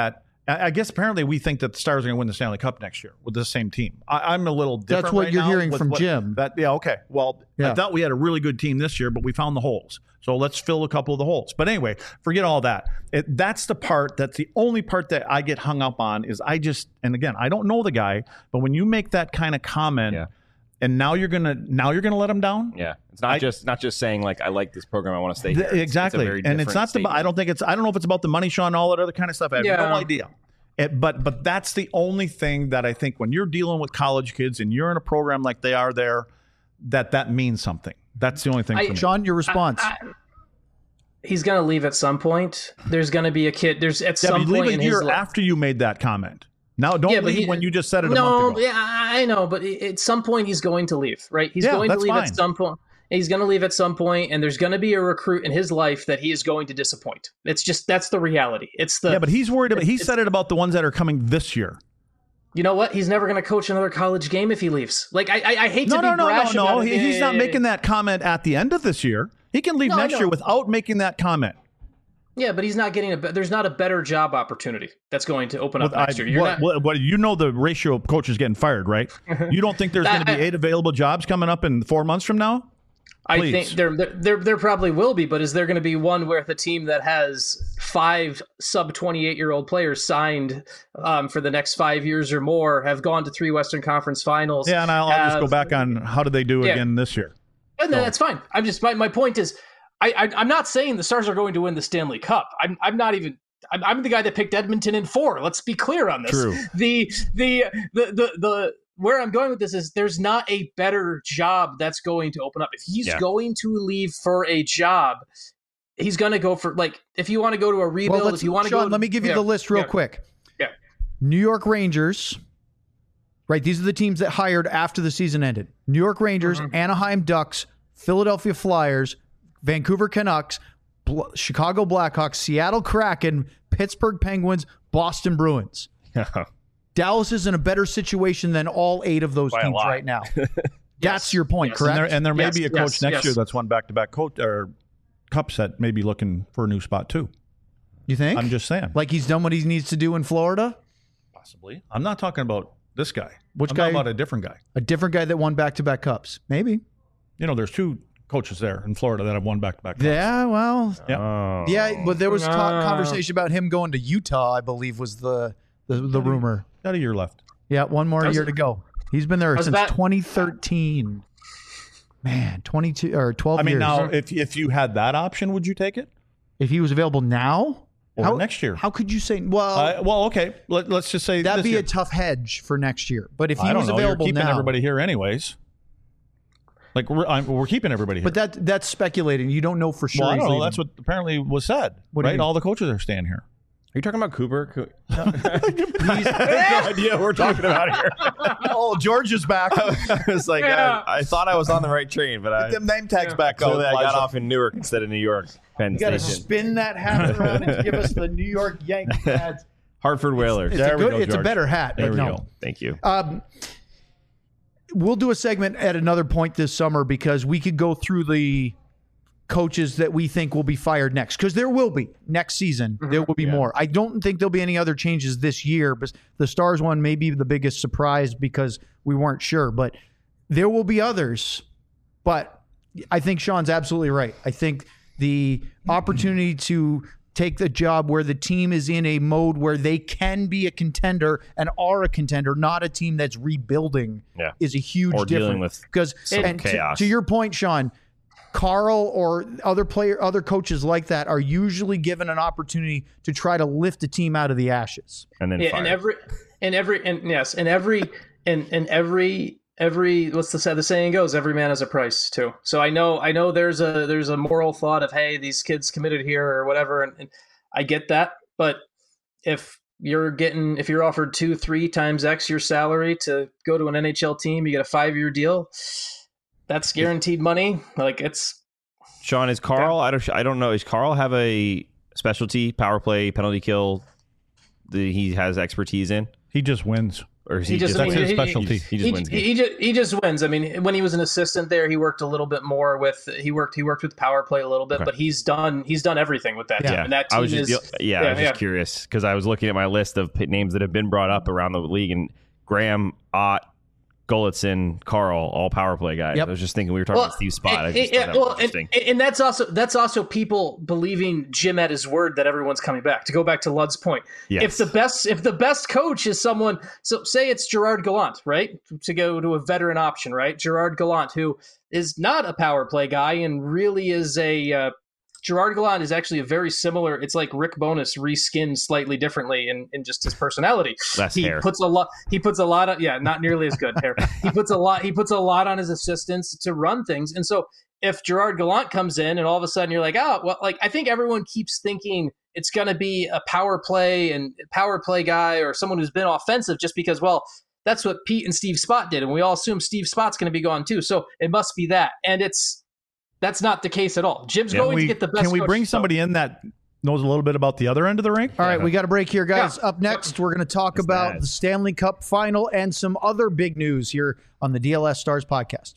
I guess apparently we think that the Stars are going to win the Stanley Cup next year with the same team. I'm a little different. That's what right you're now hearing with from Jim. Okay. Well, I thought we had a really good team this year, but we found the holes. So let's fill a couple of the holes. But anyway, forget all that. That's the only part that I get hung up on is and again, I don't know the guy, but when you make that kind of comment and now you're gonna let him down. Yeah, it's not just saying like I like this program, I want to stay here. Exactly, and it's not I don't know if it's about the money, Sean, all that other kind of stuff. I have no idea. But that's the only thing that I think when you're dealing with college kids and you're in a program like they are there, that means something. That's the only thing. For me. Sean, your response. He's going to leave at some point. There's going to be a kid. There's at some point leave a year after you made that comment. Now, don't leave when you just said it a month ago. Yeah, I know, but at some point he's going to leave, right? He's going to leave at some point. He's going to leave at some point, and there's going to be a recruit in his life that he is going to disappoint. That's the reality. But he's worried about. He said it about the ones that are coming this year. You know what? He's never going to coach another college game if he leaves. Like I hate to be brash. No. He's not making that comment at the end of this year. He can leave next year without making that comment. Yeah, but he's not getting there's not a better job opportunity that's going to open up next year. You know the ratio of coaches getting fired, right? You don't think there's going to be 8 available jobs coming up in 4 months from now? Please. I think there probably will be, but is there going to be one where the team that has 5 sub 28-year-old players signed for the next 5 years or more have gone to 3 Western Conference Finals? Yeah, and I'll just go back on how did they do again this year? And that's fine. I'm just my point is I'm not saying the Stars are going to win the Stanley Cup. I'm not even. I'm the guy that picked Edmonton in 4. Let's be clear on this. True. The where I'm going with this is there's not a better job that's going to open up. If he's going to leave for a job, he's going to go for if you want to go to a rebuild. If you want to go, let me give you the list real quick. Yeah. New York Rangers. Right, these are the teams that hired after the season ended. New York Rangers, Anaheim Ducks, Philadelphia Flyers, Vancouver Canucks, Chicago Blackhawks, Seattle Kraken, Pittsburgh Penguins, Boston Bruins. Dallas is in a better situation than all 8 of those teams right now. That's your point, correct? And there may be a coach next year that's won back-to-back cups that may be looking for a new spot too. You think? I'm just saying. Like he's done what he needs to do in Florida? Possibly. I'm not talking about this guy. Which I'm guy? talking about a different guy. A different guy that won back-to-back cups. Maybe. There's 2 coaches there in Florida that have won back-to-back cups. Yeah, well. Yeah, but there was conversation about him going to Utah, I believe was the rumor. Got a year left. Yeah, one more year to go. He's been there since 2013. Man, 22 or 12 years. I mean, now, if you had that option, would you take it? If he was available now? Or next year? How could you say? Well, okay. Let's just say that'd be a tough hedge for next year. But if he was available You're keeping now, everybody here anyways. Like we're keeping everybody here. But that's speculating. You don't know for sure. Well, I don't know. That's what apparently was said. Right? All the coaches are staying here. Are you talking about Cooper? No idea what we're talking about here. Oh, George is back. I was like, I thought I was on the right train, but Get them name tags back. So I got off in Newark instead of New York. You got to spin that hat around and give us the New York Yankees hats. Hartford Whalers. It's a better hat. There but we no. go. Thank you. We'll do a segment at another point this summer because we could go through the coaches that we think will be fired next, because there will be next season. There will be more. I don't think there'll be any other changes this year, but the Stars one may be the biggest surprise because we weren't sure, but there will be others. But I think Sean's absolutely right. I think the opportunity to take the job where the team is in a mode where they can be a contender and are a contender, not a team that's rebuilding, is a huge difference. Dealing with because chaos. To your point, Sean, Carl or other coaches like that are usually given an opportunity to try to lift a team out of the ashes. And then every what's the saying goes, every man has a price too. So I know there's a moral thought of, hey, these kids committed here or whatever, and I get that, but if you're offered 2-3 times X your salary to go to an NHL team, you get a 5-year deal. That's guaranteed money. Like it's Sean, is Carl? I don't know. Does Carl have a specialty power play penalty kill that he has expertise in? He just wins. Or is he that's his specialty. He just wins games. He just wins. I mean, when he was an assistant there, he worked a little bit more with he worked with power play a little bit, but he's done everything with that team. And that team I was just curious because I was looking at my list of names that have been brought up around the league, and Graham, Ott, Golitzin, Carl, all power play guys. Yep. I was just thinking we were talking about Steve Spott. And that's also people believing Jim at his word that everyone's coming back. To go back to Lud's point, if the best coach is someone, so say it's Gerard Gallant, right? To go to a veteran option, right? Gerard Gallant, who is not a power play guy and really is a Gerard Gallant is actually a very similar. It's like Rick Bowness reskinned slightly differently in just his personality. Hair. Puts a lot of not nearly as good hair. He puts a lot on his assistants to run things. And so if Gerard Gallant comes in and all of a sudden you're like, I think everyone keeps thinking it's going to be a power play guy or someone who's been offensive just because, that's what Pete and Steve Spott did, and we all assume Steve Spott's going to be gone too. So it must be that, and that's not the case at all. Jim's going to get the best. Can we bring somebody in that knows a little bit about the other end of the rink? All right, we got a break here, guys. Up next, we're going to talk about the Stanley Cup final and some other big news here on the DLS Stars podcast.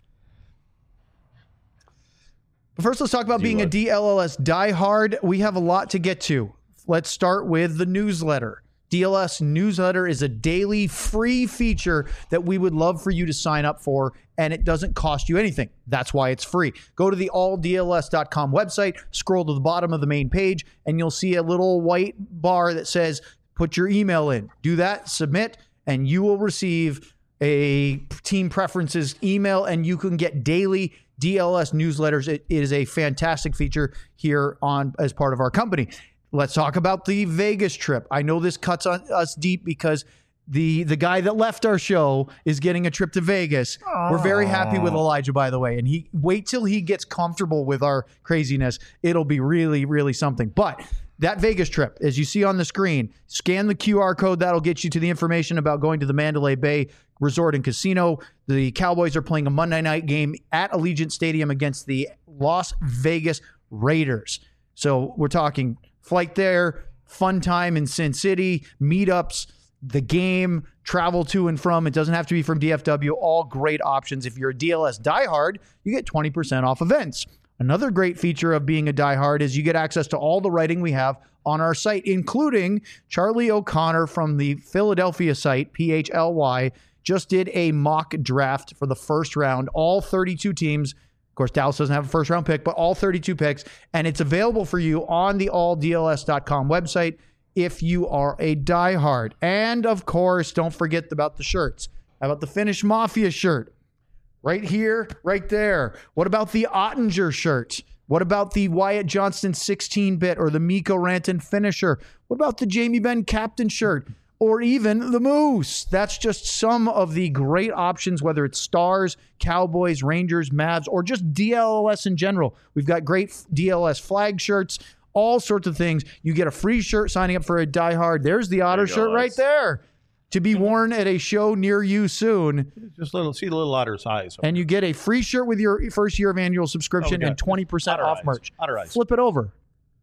But first, let's talk about being a DLS diehard. We have a lot to get to. Let's start with the newsletter. DLS newsletter is a daily free feature that we would love for you to sign up for, and it doesn't cost you anything. That's why it's free. Go to the alldls.com website, scroll to the bottom of the main page, and you'll see a little white bar that says, put your email in. Do that, submit, and you will receive a team preferences email, and you can get daily DLS newsletters. It is a fantastic feature here as part of our company. Let's talk about the Vegas trip. I know this cuts on us deep because the guy that left our show is getting a trip to Vegas. We're very happy with Elijah, by the way. And wait till he gets comfortable with our craziness. It'll be really, really something. But that Vegas trip, as you see on the screen, scan the QR code. That'll get you to the information about going to the Mandalay Bay Resort and Casino. The Cowboys are playing a Monday night game at Allegiant Stadium against the Las Vegas Raiders. So we're talking flight there, fun time in Sin City, meetups, the game, travel to and from. It doesn't have to be from DFW. All great options. If you're a DLS diehard, you get 20% off events. Another great feature of being a diehard is you get access to all the writing we have on our site, including Charlie O'Connor from the Philadelphia site, PHLY, just did a mock draft for the first round. All 32 teams. Of course, Dallas doesn't have a first round pick, but all 32 picks, and it's available for you on the alldls.com website if you are a diehard. And of course, don't forget about the shirts. How about the Finnish Mafia shirt? Right here, right there. What about the Ottinger shirt? What about the Wyatt Johnston 16-bit or the Mikko Rantanen finisher? What about the Jamie Benn captain shirt? Or even the Moose. That's just some of the great options, whether it's Stars, Cowboys, Rangers, Mavs, or just DLS in general. We've got great DLS flag shirts, all sorts of things. You get a free shirt signing up for a diehard. There's the Otter shirt right there to be worn at a show near you soon. Just see the little Otter's eyes. And you get a free shirt with your first year of annual subscription and 20% off merch. Flip it over.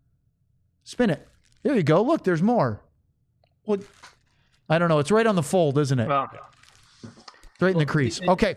Spin it. There you go. Look, there's more. Well, I don't know. It's right on the fold, isn't it? Well, right in the crease. Okay.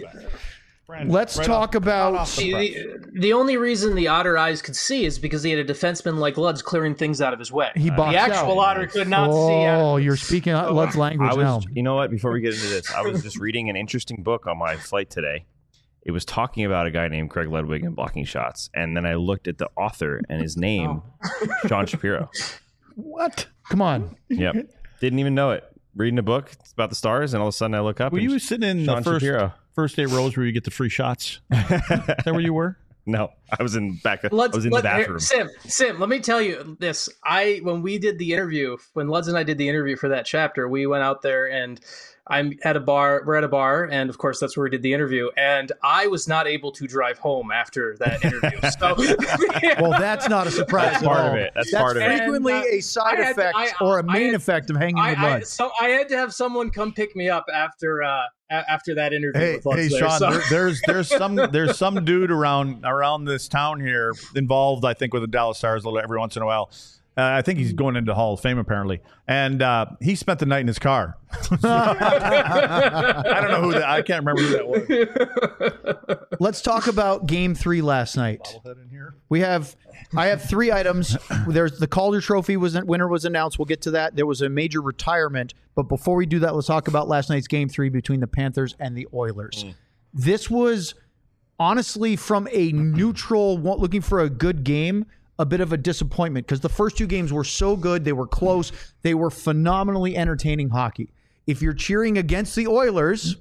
Let's talk about... The only reason the Otter eyes could see is because he had a defenseman like Lud's clearing things out of his way. He boxed the actual out. Otter could not see. Oh, you're speaking Lud's language now. You know what? Before we get into this, I was just reading an interesting book on my flight today. It was talking about a guy named Craig Ludwig and blocking shots. And then I looked at the author and his name, Sean Shapiro. What? Come on. Yep. Didn't even know it. Reading a book about the Stars, and all of a sudden I look up. Were you sitting in Sean the first 8 rows where you get the free shots? Is that where you were? No, I was in the bathroom. Sim, let me tell you this. When we did the interview, when Luds and I did the interview for that chapter, we went out there and I'm at a bar. We're at a bar, and of course that's where we did the interview. And I was not able to drive home after that interview. So, well, that's not a surprise. That's part of it. That's part of it. Frequently a side effect or a main effect of hanging with Lutz. So I had to have someone come pick me up after that interview. Hey, Sean, there's some dude around this town here involved, I think, with the Dallas Stars every once in a while. I think he's going into Hall of Fame apparently, and he spent the night in his car. I don't know who that. I can't remember who that was. Let's talk about Game 3 last night. I have 3 items. There's the Calder Trophy winner was announced. We'll get to that. There was a major retirement, but before we do that, let's talk about last night's Game 3 between the Panthers and the Oilers. This was honestly, from a neutral, looking for a good game, a bit of a disappointment because the first 2 games were so good. They were close. They were phenomenally entertaining hockey. If you're cheering against the Oilers,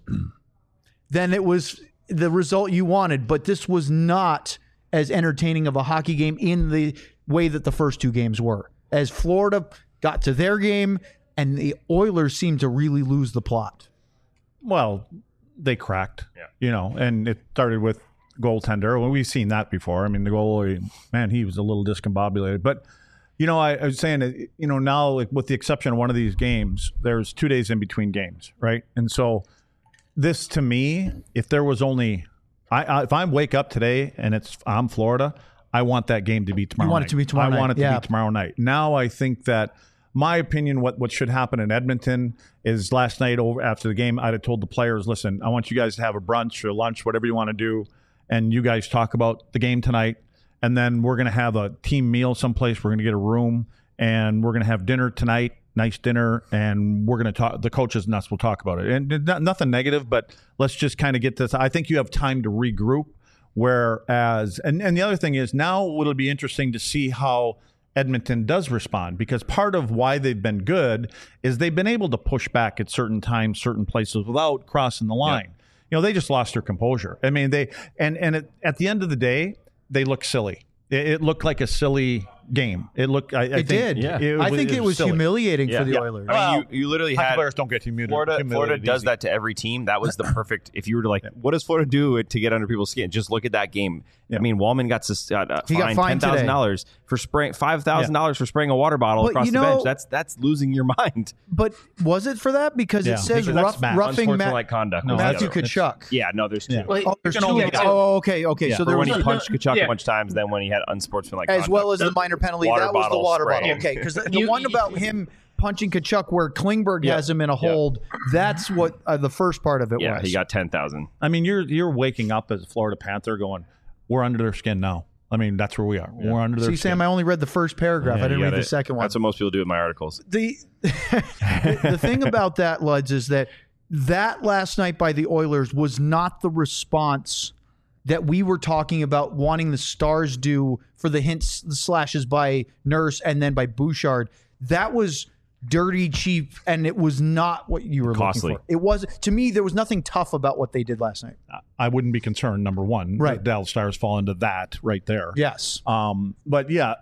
then it was the result you wanted. But this was not as entertaining of a hockey game in the way that the first 2 games were. As Florida got to their game and the Oilers seemed to really lose the plot. Well, they cracked, and it started with goaltender. Well, we've seen that before. I mean, the goalie, man, he was a little discombobulated. But, I was saying, now with the exception of one of these games, there's 2 days in between games, right? And so this, to me, if there was only, if I wake up today and I'm Florida, I want that game to be tomorrow night. You want it to be tomorrow night. I want it to be tomorrow night. Now I think that my opinion, what should happen in Edmonton is last night after the game, I'd have told the players, listen, I want you guys to have a brunch or lunch, whatever you want to do. And you guys talk about the game tonight, and then we're going to have a team meal someplace. We're going to get a room, and we're going to have dinner tonight, nice dinner, and we're going to talk. The coaches and us will talk about it. And nothing negative, but let's just kind of get this. I think you have time to regroup. Whereas, and the other thing is now it'll be interesting to see how Edmonton does respond, because part of why they've been good is they've been able to push back at certain times, certain places without crossing the line. Yep. They just lost their composure. I mean, at the end of the day, they look silly. It looked like a silly game. It looked. I think it was humiliating for the Oilers. I mean, you literally had players don't get humiliated. Florida does that to every team. That was the perfect. If you were to what does Florida do to get under people's skin? Just look at that game. Yeah. I mean, Wallman got fined $10,000 for spraying $5,000 for spraying a water bottle across the bench. That's losing your mind. But was it for that? Because it says roughing unsportsmanlike conduct. Matthew Tkachuk. Yeah, no, there's 2. Yeah. Well, there's 2. Okay. Yeah. So there was when he punched Tkachuk a bunch of times, then when he had unsportsmanlike conduct, as well as the minor penalty, that was the water bottle. Okay, because the one about him punching Tkachuk where Klingberg has him in a hold, that's what the first part of it was. Yeah, he got 10,000. I mean, you're waking up as a Florida Panther going, we're under their skin now. I mean, that's where we are. Yeah. We're under their skin. See, Sam, I only read the first paragraph. I didn't read the second one. That's what most people do with my articles. The thing about that, Luds, is that last night by the Oilers was not the response that we were talking about wanting the Stars do for the hints, the slashes by Nurse and then by Bouchard. That was dirty, cheap, and it was not what you were looking for. It was, to me, there was nothing tough about what they did last night. I wouldn't be concerned, number one. Right. The Dallas Stars fall into that right there. Yes. But yeah,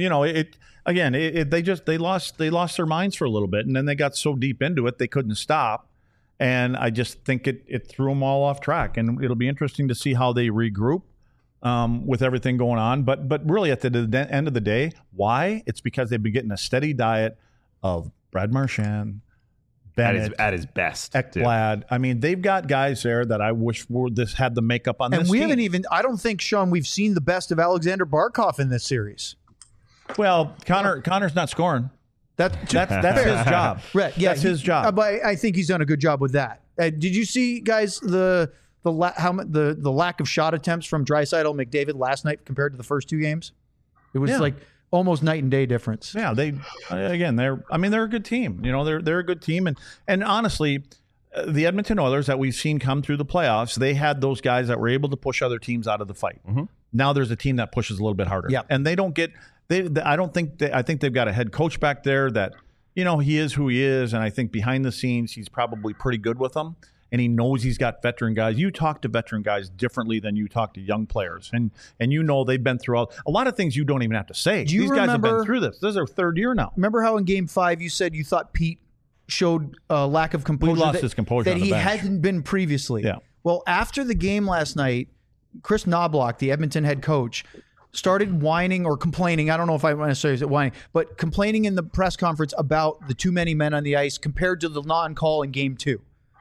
they lost their minds for a little bit, and then they got so deep into it they couldn't stop. And I just think it threw them all off track. And it'll be interesting to see how they regroup with everything going on. But really, at the end of the day, why? It's because they've been getting a steady diet of Brad Marchand, Bennett, at his best, Ekblad. I mean, they've got guys there that I wish had the makeup on this team. And we haven't even, I don't think, Sean, we've seen the best of Alexander Barkov in this series. Well, Connor's not scoring. That's his job. Right. Yeah, that's his job. But I think he's done a good job with that. Did you see, guys, the lack of shot attempts from Draisaitl, McDavid last night compared to the first 2 games? It was like almost night and day difference. Yeah, they're a good team. They're a good team, and honestly, the Edmonton Oilers that we've seen come through the playoffs, they had those guys that were able to push other teams out of the fight. Mm-hmm. Now there's a team that pushes a little bit harder. Yeah. And they don't get I think they've got a head coach back there that, he is who he is, and I think behind the scenes he's probably pretty good with them. And he knows he's got veteran guys. You talk to veteran guys differently than you talk to young players. And they've been through a lot of things you don't even have to say. These guys have been through this. This is their 3rd year now. Remember how in Game 5 you said you thought Pete showed a lack of composure? He lost his composure that he hadn't been previously. Yeah. Well, after the game last night, Chris Knobloch, the Edmonton head coach, started whining or complaining. I don't know if I want to say whining, but complaining in the press conference about the too many men on the ice compared to the non-call in Game 2.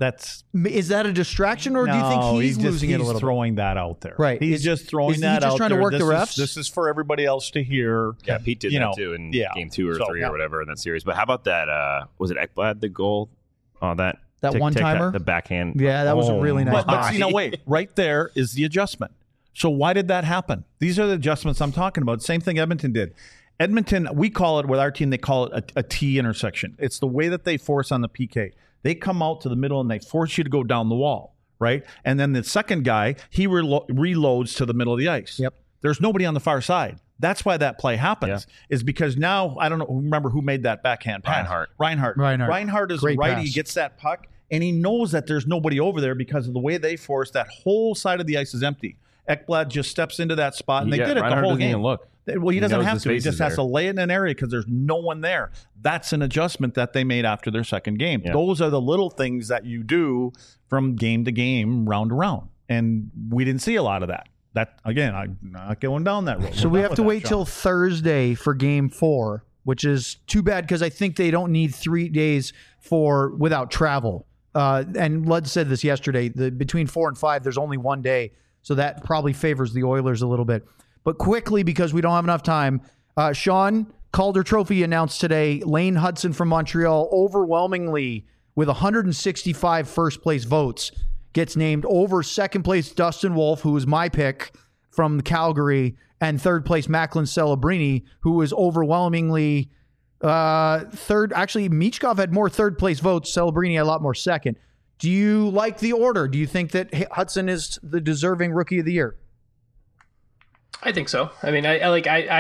Is that a distraction, or do you think he's losing it a little bit? He's throwing that out there. Right. He's just throwing that out there. He's just trying to work the refs? This is for everybody else to hear. Yeah, Pete did that too in game 2 or 3 or whatever in that series. But how about that? Was it Ekblad, the goal? That one-timer? The backhand. Yeah, that was a really nice But wait. Right there is the adjustment. So why did that happen? These are the adjustments I'm talking about. Same thing Edmonton did. Edmonton, we call it, with our team, they call it a T intersection. It's the way that they force on the PK. They come out to the middle and they force you to go down the wall, right? And then the second guy, he reloads to the middle of the ice. Yep. There's nobody on the far side. That's why that play happens, is because now, I don't know, remember who made that backhand pass? Reinhart. Reinhart is a righty. He gets that puck, and he knows that there's nobody over there because of the way they force. That whole side of the ice is empty. Ekblad just steps into that spot, and they did it Reinhart the whole game. Even look. Well, he doesn't have to. He just has to lay it in an area because there's no one there. That's an adjustment that they made after their second game. Yeah. Those are the little things that you do from game to game, round to round. And we didn't see a lot of that. That, again, I'm not going down that road. So we have to wait till Thursday for game 4, which is too bad because I think they don't need 3 days without travel. And Lud said this yesterday. Between 4 and 5, there's only 1 day. So that probably favors the Oilers a little bit. But quickly, because we don't have enough time, Sean, Calder Trophy announced today, Lane Hudson from Montreal overwhelmingly with 165 first-place votes gets named over second place Dustin Wolf, who was my pick from Calgary, and third place Macklin Celebrini, who was overwhelmingly third. Actually, Michkov had more third-place votes. Celebrini had a lot more second. Do you like the order? Do you think that Hudson is the deserving Rookie of the Year? I think so. I mean, I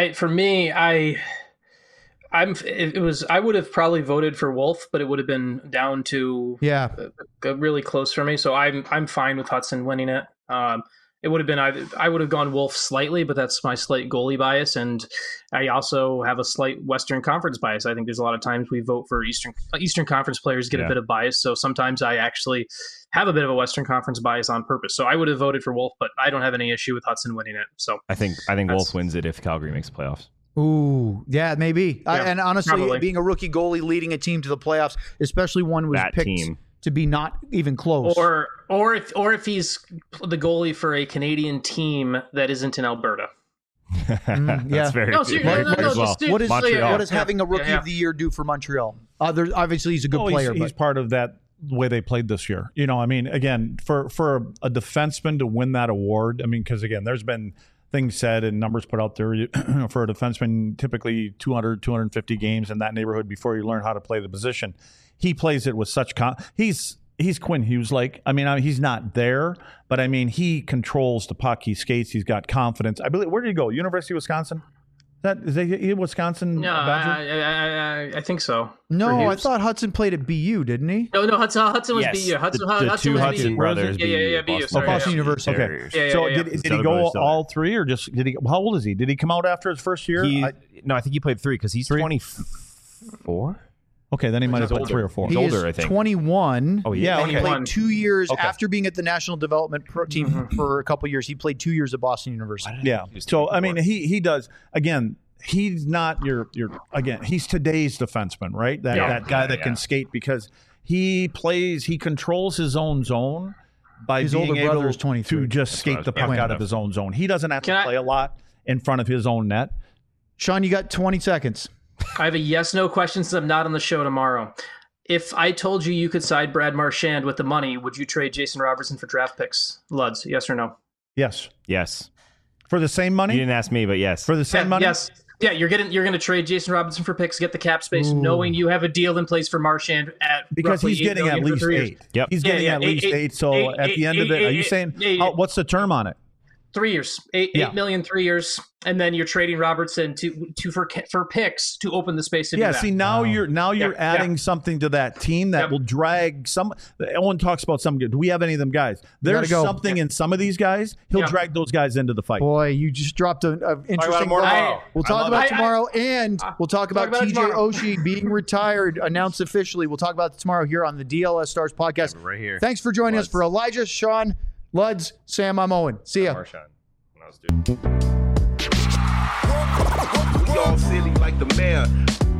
would have probably voted for Wolf, but it would have been down to really close for me. So I'm fine with Hudson winning it. It would have been I would have gone Wolf slightly, but that's my slight goalie bias, and I also have a slight Western Conference bias. I think there's a lot of times we vote for Eastern Conference players get a bit of bias, so sometimes I actually have a bit of a Western Conference bias on purpose. So I would have voted for Wolf, but I don't have any issue with Hudson winning it. So I think Wolf wins it if Calgary makes playoffs. Ooh, yeah, maybe. Yeah, and honestly, probably. Being a rookie goalie leading a team to the playoffs, especially one was picked to be not even close, or if he's the goalie for a Canadian team that isn't in Alberta. That's very good. What does having a Rookie of the Year do for Montreal? Obviously, he's a good player. He's part of that way they played this year. You know, I mean, again, for a defenseman to win that award, I mean, because again, there's been things said and numbers put out there for a defenseman, typically 200, 250 games in that neighborhood before you learn how to play the position. He plays it with such he's Quinn Hughes-like. I mean, he's not there, but I mean, he controls the puck. He skates. He's got confidence. I believe. Where did he go? University of Wisconsin? Is he Wisconsin? No, I think so. No, I thought Hudson played at BU, didn't he? No, Hudson was BU. The two Hudson brothers. Yeah, BU. Boston University. Okay. So did he go all 3, or just did he? How old is he? Did he come out after his first year? No, I think he played 3 because he's 24. Okay, then he might have been 3 or 4. He's older, I think. 21. Oh, yeah. And he played 2 years after being at the National Development Team for a couple of years. He played 2 years at Boston University. Yeah. So, I mean, he does. Again, he's not he's today's defenseman, right? That guy that can skate because he controls his own zone by his being older able brother is 23. to just skate the puck out of his own zone. He doesn't have to play a lot in front of his own net. Sean, you got 20 seconds. I have a yes/no question since I'm not on the show tomorrow. If I told you could side Brad Marchand with the money, would you trade Jason Robertson for draft picks? Luds, yes or no? Yes. Yes. For the same money? You didn't ask me, but yes. For the same money? Yes. Yeah, you're going to trade Jason Robinson for picks, get the cap space, knowing you have a deal in place for Marchand because he's getting at least 8. Yep. He's getting at least 8. So at the end of it, are you saying what's the term on it? 3 years, $8 million, 3 years, and then you're trading Robertson for picks to open the space to do that. See, now you're adding something to that team that will drag some. Owen talks about some good. Do we have any of them guys? There's something in some of these guys. He'll drag those guys into the fight. Boy, you just dropped an interesting. We'll talk about tomorrow, and we'll talk about TJ Oshie being retired, announced officially. We'll talk about it tomorrow here on the DLS Stars podcast. Right here. Thanks for joining us. For Elijah, Sean, Luds, Sam, I'm Owen. See ya. We all silly like the mayor.